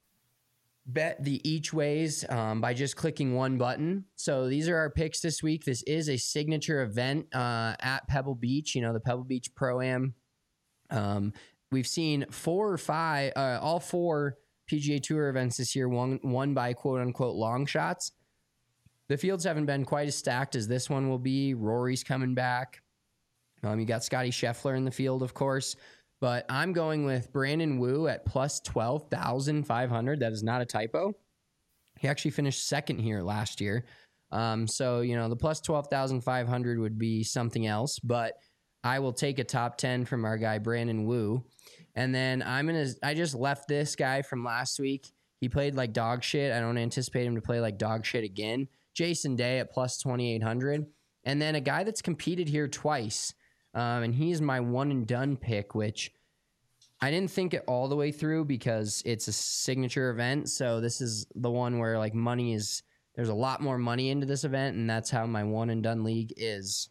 bet the each ways um, by just clicking one button. So these are our picks this week. This is a signature event uh, at Pebble Beach, you know, the Pebble Beach Pro-Am. Um, we've seen four or five, uh, all four P G A Tour events this year won, won by quote-unquote long shots. The fields haven't been quite as stacked as this one will be. Rory's coming back. Um, you got Scotty Scheffler in the field, of course. But I'm going with Brandon Wu at plus twelve thousand five hundred. That is not a typo. He actually finished second here last year. Um, so, you know, the plus twelve thousand five hundred would be something else. But I will take a top ten from our guy, Brandon Wu. And then I'm going to, I just left this guy from last week. He played like dog shit. I don't anticipate him to play like dog shit again. Jason Day at plus twenty-eight hundred. And then a guy that's competed here twice. Um, and he's my one and done pick, which I didn't think it all the way through because it's a signature event. So this is the one where like money is, there's a lot more money into this event. And that's how my one and done league is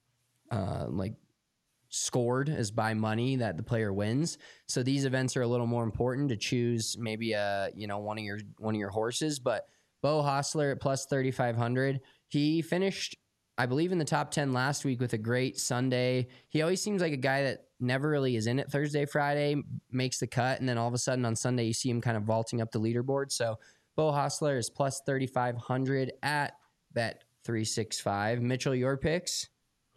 uh, like scored, is by money that the player wins. So these events are a little more important to choose maybe a, you know, one of your, one of your horses, but Beau Hossler at plus thirty-five hundred. He finished, I believe, in the top ten last week with a great Sunday. He always seems like a guy that never really is in it Thursday, Friday, makes the cut, and then all of a sudden on Sunday you see him kind of vaulting up the leaderboard. So Beau Hossler is plus thirty-five hundred at Bet three sixty-five. Mitchell, your picks?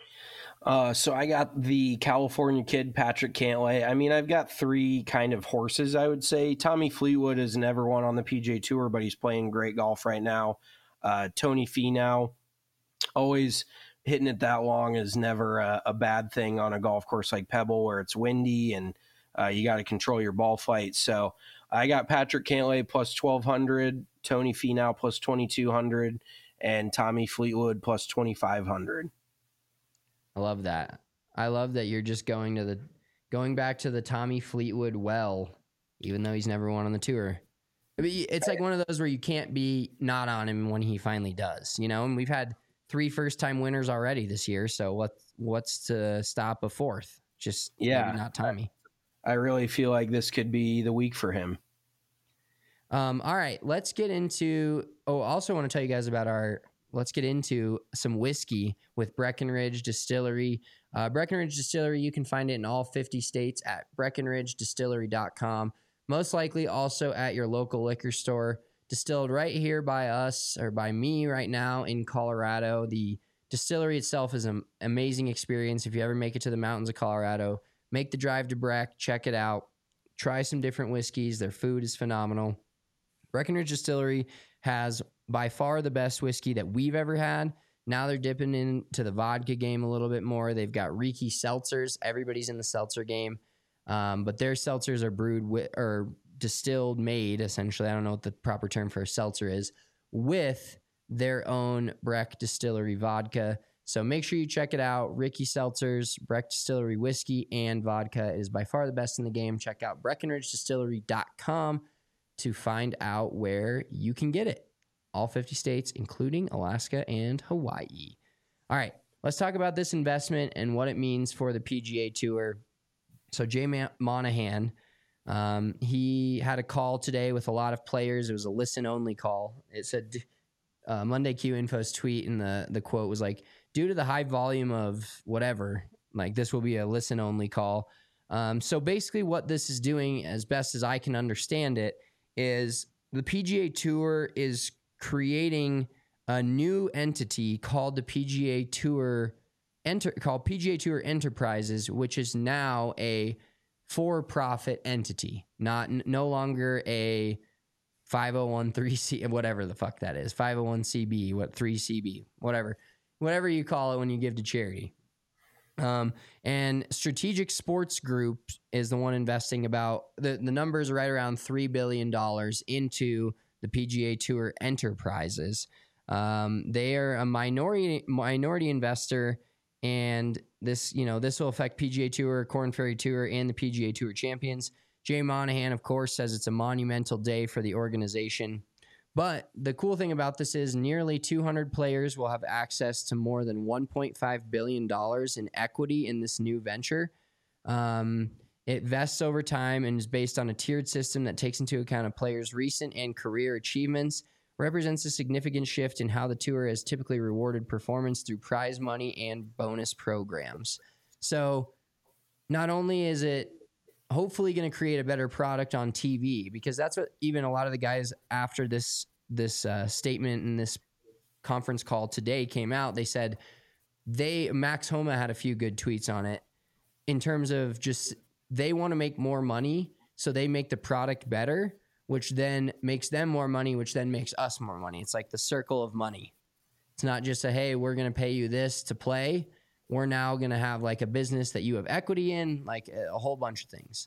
Uh, so I got the California kid, Patrick Cantlay. I mean, I've got three kind of horses, I would say. Tommy Fleetwood has never won on the P G A Tour, but he's playing great golf right now. Uh, Tony Finau, always hitting it that long is never a, a bad thing on a golf course like Pebble where it's windy and uh, you got to control your ball flight. So I got Patrick Cantlay plus twelve hundred, Tony Finau plus twenty-two hundred, and Tommy Fleetwood plus twenty-five hundred. I love that. I love that you're just going to the going back to the Tommy Fleetwood well, even though he's never won on the tour. I mean, it's like one of those where you can't be not on him when he finally does, you know. And we've had three first-time winners already this year, so what what's to stop a fourth? Just yeah, maybe not Tommy. I really feel like this could be the week for him. Um, all right, let's get into. Oh, I also want to tell you guys about our. Let's get into some whiskey with Breckenridge Distillery. Uh, Breckenridge Distillery, you can find it in all fifty states at breckenridge distillery dot com. Most likely also at your local liquor store. Distilled right here by us, or by me right now in Colorado. The distillery itself is an amazing experience. If you ever make it to the mountains of Colorado, make the drive to Breck, check it out. Try some different whiskeys. Their food is phenomenal. Breckenridge Distillery has by far the best whiskey that we've ever had. Now they're dipping into the vodka game a little bit more. They've got Riki seltzers. Everybody's in the seltzer game. Um, but their seltzers are brewed with, or distilled, made, essentially. I don't know what the proper term for a seltzer is, with their own Breck Distillery vodka. So make sure you check it out. Riki Seltzers, Breck Distillery whiskey and vodka is by far the best in the game. Check out breckenridge distillery dot com to find out where you can get it. All fifty states, including Alaska and Hawaii. All right, let's talk about this investment and what it means for the P G A Tour. So Jay Monahan, um, he had a call today with a lot of players. It was a listen-only call. It said, uh, Monday Q Info's tweet, and the the quote was like, "Due to the high volume of whatever, like this will be a listen only call." Um, so basically, what this is doing, as best as I can understand it, is the P G A Tour is creating a new entity called the P G A Tour Enter called P G A Tour Enterprises, which is now a for-profit entity, not n- no longer a five oh one three C, whatever the fuck that is, five oh one C B, what three C B, whatever, whatever you call it when you give to charity. Um, and Strategic Sports Group is the one investing about the the numbers are right around three billion dollars into the P G A Tour Enterprises. Um, they are a minority minority investor. And this, you know, this will affect P G A Tour, Korn Ferry Tour, and the P G A Tour champions. Jay Monahan, of course, says it's a monumental day for the organization. But the cool thing about this is nearly two hundred players will have access to more than one point five billion dollars in equity in this new venture. Um, it vests over time and is based on a tiered system that takes into account a player's recent and career achievements, represents a significant shift in how the tour has typically rewarded performance through prize money and bonus programs. So not only is it hopefully going to create a better product on T V, because that's what even a lot of the guys after this this uh, statement and this conference call today came out, they said they Max Homa had a few good tweets on it in terms of just they want to make more money, so they make the product better, which then makes them more money, which then makes us more money. It's like the circle of money. It's not just a, hey, we're going to pay you this to play. We're now going to have like a business that you have equity in, like a whole bunch of things.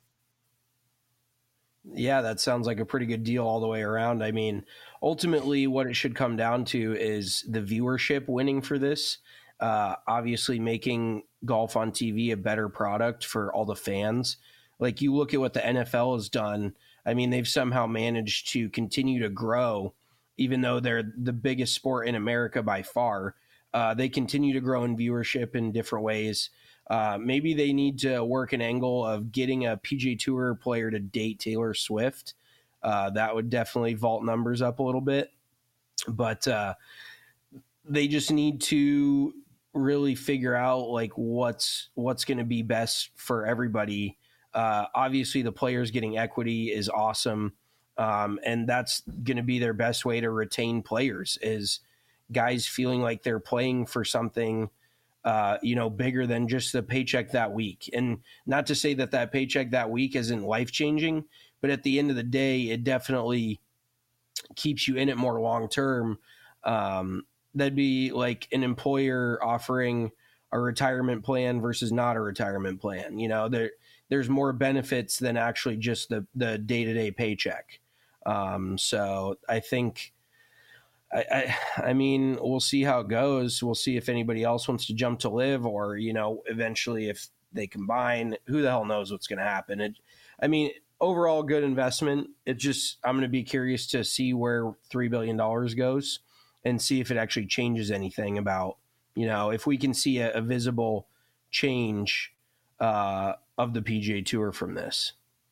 Yeah, that sounds like a pretty good deal all the way around. I mean, ultimately what it should come down to is the viewership winning for this. Uh, obviously making golf on T V a better product for all the fans. Like you look at what the N F L has done. I mean, they've somehow managed to continue to grow, even though they're the biggest sport in America by far. Uh, they continue to grow in viewership in different ways. Uh, maybe they need to work an angle of getting a P G A Tour player to date Taylor Swift. Uh, that would definitely vault numbers up a little bit. But uh, they just need to really figure out like what's what's going to be best for everybody. Uh, obviously, the players getting equity is awesome, um, and that's going to be their best way to retain players is guys feeling like they're playing for something, uh, you know, bigger than just the paycheck that week. And not to say that that paycheck that week isn't life-changing, but at the end of the day, it definitely keeps you in it more long-term. Um, that'd be like an employer offering a retirement plan versus not a retirement plan. You know, there there's more benefits than actually just the the day-to-day paycheck. Um, so I think, I, I, I mean, we'll see how it goes. We'll see if anybody else wants to jump to live, or, you know, eventually if they combine, who the hell knows what's going to happen. It, I mean, overall good investment. It just, I'm going to be curious to see where three billion dollars goes and see if it actually changes anything about, you know, if we can see a, a visible change uh, of the P G A Tour from this.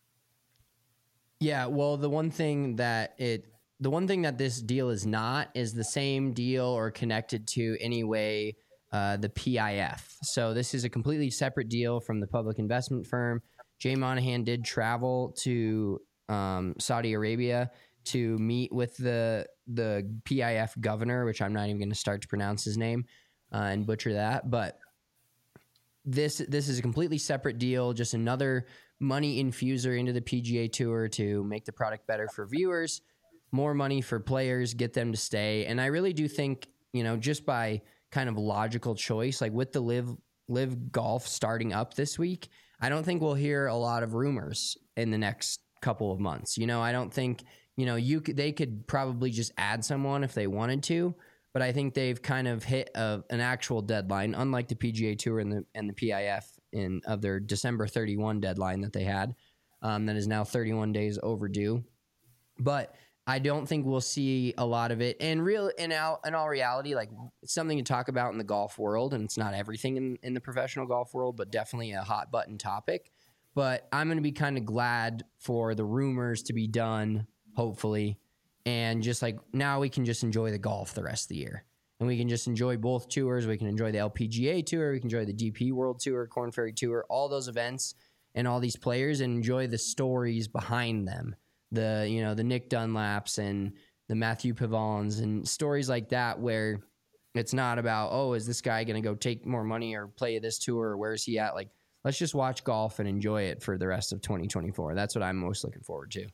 Yeah, well, the one thing that it, the one thing that this deal is not is the same deal or connected to anyway uh, the P I F. So this is a completely separate deal from the public investment firm. Jay Monahan did travel to um, Saudi Arabia to meet with the the P I F governor, which I'm not even going to start to pronounce his name uh, and butcher that, but this this is a completely separate deal, just another money infuser into the P G A Tour to make the product better for viewers, more money for players, get them to stay. And I really do think, you know, just by kind of logical choice, like with the live live golf starting up this week, I don't think we'll hear a lot of rumors in the next couple of months. You know, I don't think, you know, you could, they could probably just add someone if they wanted to, but I think they've kind of hit a, an actual deadline, unlike the P G A Tour and the and the P I F in of their December thirty-first deadline that they had, um, that is now thirty-one days overdue. But I don't think we'll see a lot of it. And real in all, in all reality, like it's something to talk about in the golf world, and it's not everything in, in the professional golf world, but definitely a hot button topic. But I'm going to be kind of glad for the rumors to be done, hopefully, And just like now we can just enjoy the golf the rest of the year. And we can just enjoy both tours. We can enjoy the L P G A Tour. We can enjoy the D P World Tour, Korn Ferry Tour, all those events and all these players, and enjoy the stories behind them. The, you know, the Nick Dunlaps and the Matthew Pavons and stories like that, where it's not about, oh, is this guy going to go take more money or play this tour, or where's he at? Like, let's just watch golf and enjoy it for the rest of twenty twenty-four. That's what I'm most looking forward to.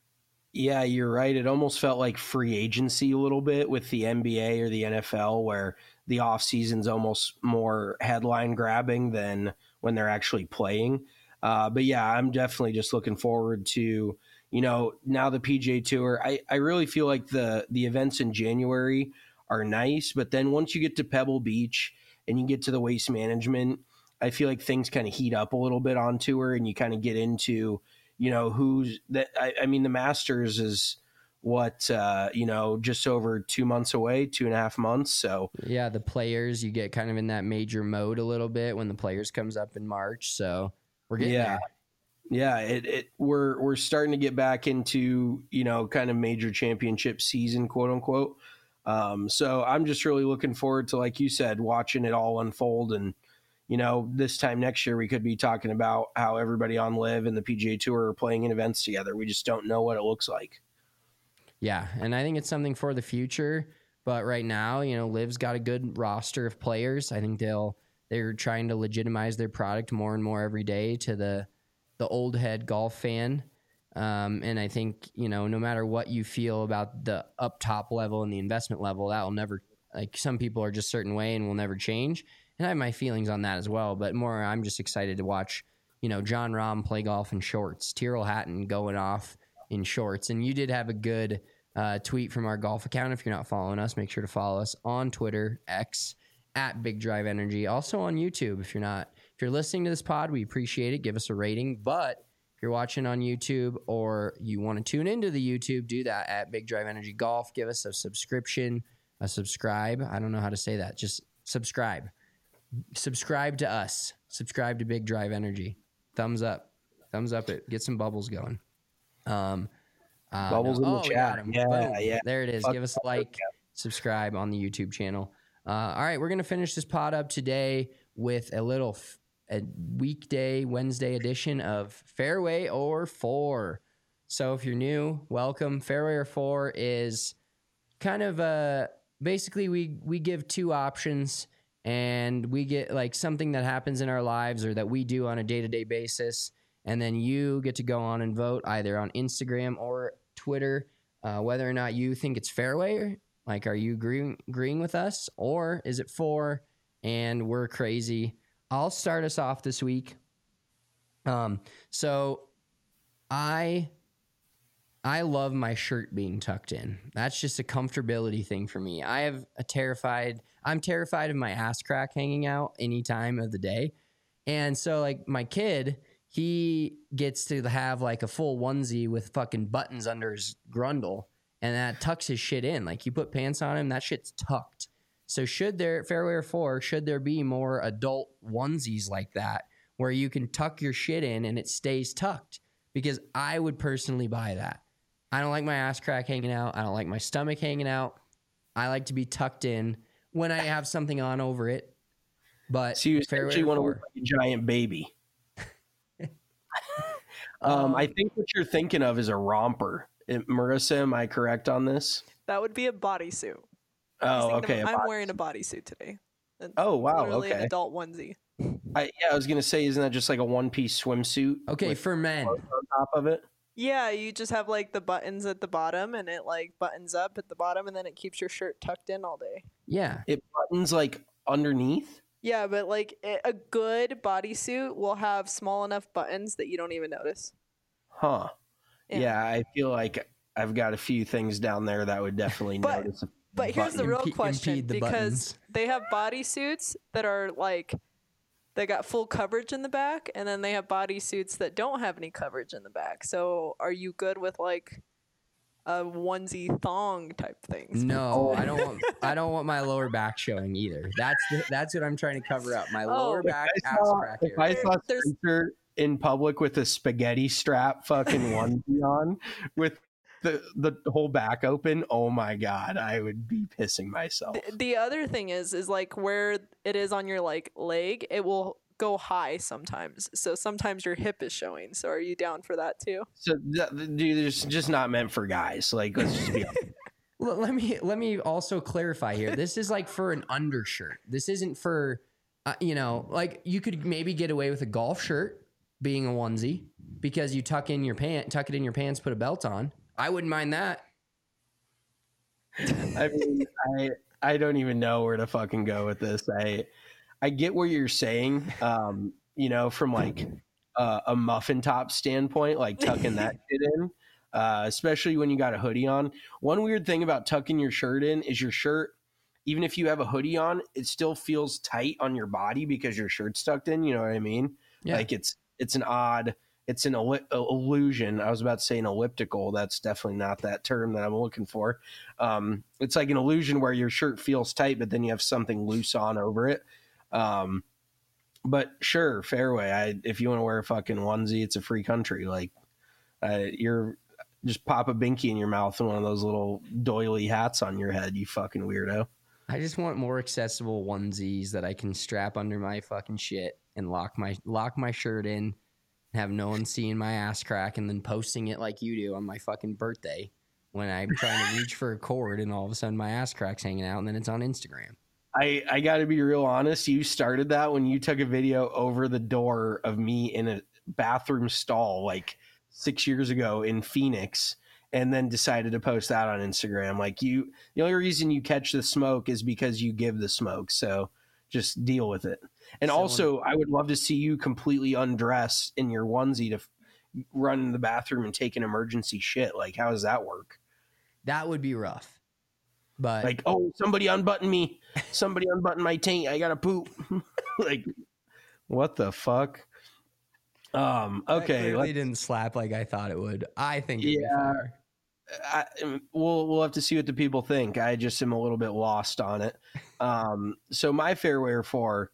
Yeah, you're right. It almost felt like free agency a little bit with the N B A or the N F L, where the off season's almost more headline grabbing than when they're actually playing. Uh, but yeah, I'm definitely just looking forward to, you know, now the P G A Tour. I, I really feel like the the events in January are nice, but then once you get to Pebble Beach and you get to the Waste Management, I feel like things kind of heat up a little bit on tour, and you kind of get into, you know, who's that. I, I mean, the Masters is what, uh, you know, just over two months away, two and a half months. So yeah, the Players, you get kind of in that major mode a little bit when the Players comes up in March. So we're getting yeah. there. Yeah, it, it we're we're starting to get back into, you know, kind of major championship season, quote unquote. Um, so I'm just really looking forward to, like you said, watching it all unfold. And, you know, this time next year we could be talking about how everybody on Live and the P G A Tour are playing in events together. We just don't know what it looks like. Yeah, and I think it's something for the future. But right now, you know, Liv's got a good roster of players. I think they'll they're trying to legitimize their product more and more every day to the the old head golf fan. Um, and I think, you know, no matter what you feel about the up top level and the investment level, that will never, like, some people are just a certain way and will never change. And I have my feelings on that as well. But more, I'm just excited to watch, you know, John Rahm play golf in shorts, Tyrrell Hatton going off in shorts. And you did have a good uh, tweet from our golf account. If you're not following us, make sure to follow us on Twitter, X, at Big Drive Energy. Also on YouTube, if you're not. If you're listening to this pod, we appreciate it. Give us a rating. But if you're watching on YouTube or you want to tune into the YouTube, do that at Big Drive Energy Golf. Give us a subscription, a subscribe. I don't know how to say that. Just subscribe. Subscribe to us. Subscribe to Big Drive Energy. Thumbs up. Thumbs up it. Get some bubbles going. Um, uh, bubbles no. in oh, the chat. Yeah, Boom. yeah. There it is. Fuck Give us a like. Subscribe on the YouTube channel. Uh, all right, we're going to finish this pod up today with a little f- a weekday Wednesday edition of Fairway or Four. So if you're new, welcome. Fairway or Four is kind of a basically we we give two options, and we get like something that happens in our lives or that we do on a day-to-day basis, and then you get to go on and vote either on Instagram or Twitter uh, whether or not you think it's fairway. Like, are you agreeing agreeing with us, or is it four and we're crazy? I'll start us off this week. Um, so I I love my shirt being tucked in. That's just a comfortability thing for me. I have a terrified, I'm terrified of my ass crack hanging out any time of the day. And so, like, my kid, he gets to have like a full onesie with fucking buttons under his grundle, and that tucks his shit in. Like, you put pants on him, that shit's tucked. So should there, Fairway or Four, should there be more adult onesies like that where you can tuck your shit in and it stays tucked? Because I would personally buy that. I don't like my ass crack hanging out. I don't like my stomach hanging out. I like to be tucked in when I have something on over it. But so you Fairway essentially or want to Four. look like a giant baby. um, I think what you're thinking of is a romper. It, Marissa, am I correct on this? That would be a bodysuit. Oh, okay. I'm a wearing a bodysuit today. It's Oh, wow, literally an okay. adult onesie. I, yeah, I was gonna say, isn't that just like a one-piece swimsuit? Okay, with for men. clothes on top of it. Yeah, you just have like the buttons at the bottom, and it like buttons up at the bottom, and then it keeps your shirt tucked in all day. Yeah. It buttons like underneath. Yeah, but like a a good bodysuit will have small enough buttons that you don't even notice. Huh. Yeah. Yeah, I feel like I've got a few things down there that would definitely But- notice. a But here's the button. real Impe- question, impede the because buttons. they have bodysuits that are like they got full coverage in the back, and then they have bodysuits that don't have any coverage in the back. So are you good with like a onesie thong type things? No, I don't want I don't want my lower back showing either. That's the, that's what I'm trying to cover up. My lower Oh. back I ass saw, crack if I area. saw There's- Spencer in public with a spaghetti strap fucking onesie on with the the whole back open, oh my god, I would be pissing myself. The, the other thing is, is like where it is on your like leg, it will go high sometimes. So sometimes your hip is showing. So are you down for that too? So, th- dude, it's just not meant for guys. Like, let's just be honest. Let me let me also clarify here. This is like for an undershirt. This isn't for, uh, you know, like you could maybe get away with a golf shirt being a onesie because you tuck in your pant, tuck it in your pants, put a belt on. I wouldn't mind that. I mean, I I don't even know where to fucking go with this. I I get what you're saying. Um, you know, from like uh, a muffin top standpoint, like tucking that shit in. Uh, especially when you got a hoodie on. One weird thing about tucking your shirt in is your shirt, even if you have a hoodie on, it still feels tight on your body because your shirt's tucked in. You know what I mean? Yeah. Like it's it's an odd, it's an illu- illusion. I was about to say an elliptical. That's definitely not that term that I'm looking for. Um, it's like an illusion where your shirt feels tight, but then you have something loose on over it. Um, but sure, fairway. I if you want to wear a fucking onesie, it's a free country. Like uh, you're. Just pop a binky in your mouth and one of those little doily hats on your head, you fucking weirdo. I just want more accessible onesies that I can strap under my fucking shit and lock my lock my shirt in and have no one seeing my ass crack and then posting it like you do on my fucking birthday when I'm trying to reach for a cord and all of a sudden my ass crack's hanging out and then it's on Instagram. I, I got to be real honest. You started that when you took a video over the door of me in a bathroom stall like six years ago in Phoenix and then decided to post that on Instagram. Like you, the only reason you catch the smoke is because you give the smoke. So just deal with it. And so also I would love to see you completely undress in your onesie to f- run in the bathroom and take an emergency shit. Like, how does that work? That would be rough. But like, oh, somebody unbutton me. Somebody unbutton my taint. I got to poop. Like, what the fuck? Um, okay. They didn't slap like I thought it would. I think it'd yeah, be I, we'll, we'll have to see what the people think. I just am a little bit lost on it. Um, so my fairway are four,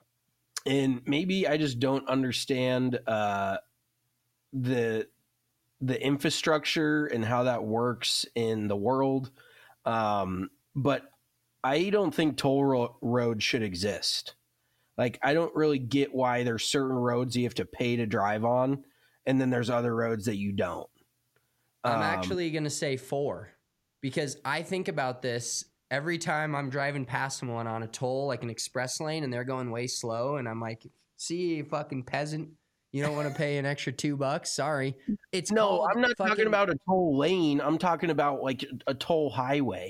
and maybe I just don't understand, uh, the, the infrastructure and how that works in the world. Um, but I don't think toll ro- roads should exist. Like, I don't really get why there's certain roads you have to pay to drive on, and then there's other roads that you don't. I'm um, actually going to say four because I think about this every time I'm driving past someone on a toll, like an express lane, and they're going way slow, and I'm like, see, you fucking peasant. You don't want to pay an extra two bucks? Sorry. It's no, I'm not fucking... talking about a toll lane. I'm talking about, like, a toll highway.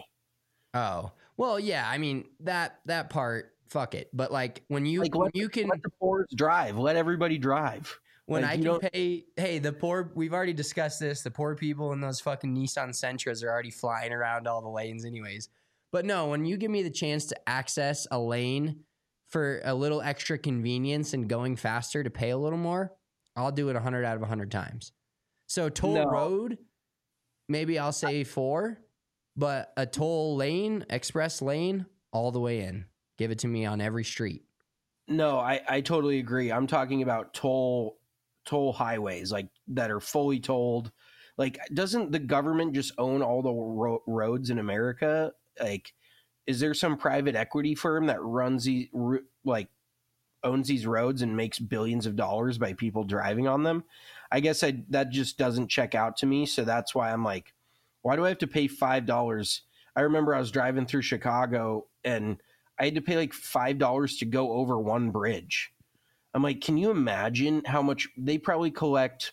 Oh. Well, yeah, I mean, that that part... Fuck it. But like when you, like, when let, you can let the poor drive, let everybody drive. When like, I can pay, hey, the poor, we've already discussed this. The poor people in those fucking Nissan Sentras are already flying around all the lanes anyways. But no, when you give me the chance to access a lane for a little extra convenience and going faster to pay a little more, I'll do it a hundred out of a hundred times. So toll no. road, maybe I'll say four, but a toll lane, express lane, all the way in. Give it to me on every street. No, I, I totally agree. I'm talking about toll toll highways, like that are fully tolled. Like, doesn't the government just own all the ro- roads in America? Like, is there some private equity firm that runs these, like, owns these roads and makes billions of dollars by people driving on them? I guess I, that just doesn't check out to me. So that's why I'm like, why do I have to pay five dollars? I remember I was driving through Chicago and I had to pay like five dollars to go over one bridge. I'm like, can you imagine how much they probably collect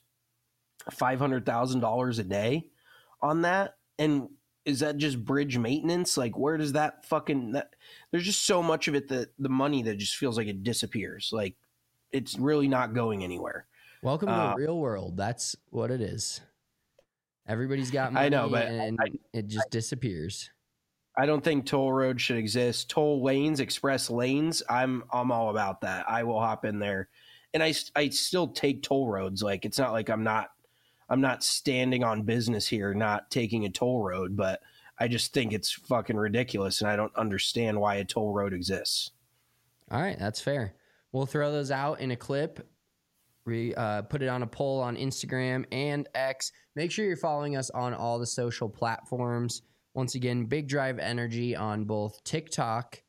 five hundred thousand dollars a day on that? And is that just bridge maintenance? Like, where does that fucking, that, there's just so much of it that the money that just feels like it disappears. Like, it's really not going anywhere. Welcome to uh, the real world. That's what it is. Everybody's got money, I know, but and I, it just disappears. I don't think toll roads should exist. Toll lanes, express lanes, I'm I'm all about that. I will hop in there, and I, I still take toll roads. Like, it's not like I'm not I'm not standing on business here, not taking a toll road, but I just think it's fucking ridiculous, and I don't understand why a toll road exists. All right, that's fair. We'll throw those out in a clip We uh, put it on a poll on Instagram and X. Make sure you're following us on all the social platforms. Once again, Big Drive Energy on both TikTok,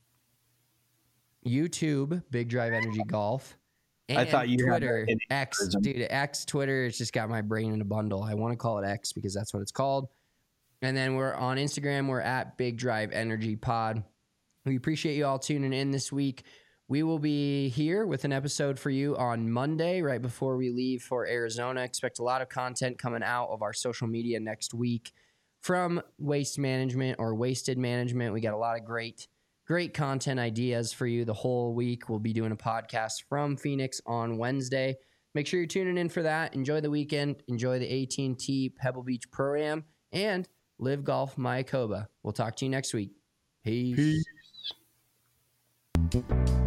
YouTube, Big Drive Energy Golf, and I thought you Twitter, had X. Dude, X, Twitter, it's just got my brain in a bundle. I want to call it X because that's what it's called. And then we're on Instagram. We're at Big Drive Energy Pod. We appreciate you all tuning in this week. We will be here with an episode for you on Monday, right before we leave for Arizona. Expect a lot of content coming out of our social media next week from Waste Management or Wasted Management. We got a lot of great, great content ideas for you the whole week. We'll be doing a podcast from Phoenix on Wednesday. Make sure you're tuning in for that. Enjoy the weekend. Enjoy the A T and T Pebble Beach Pro-Am and Live Golf Mayakoba. We'll talk to you next week. Peace. Peace.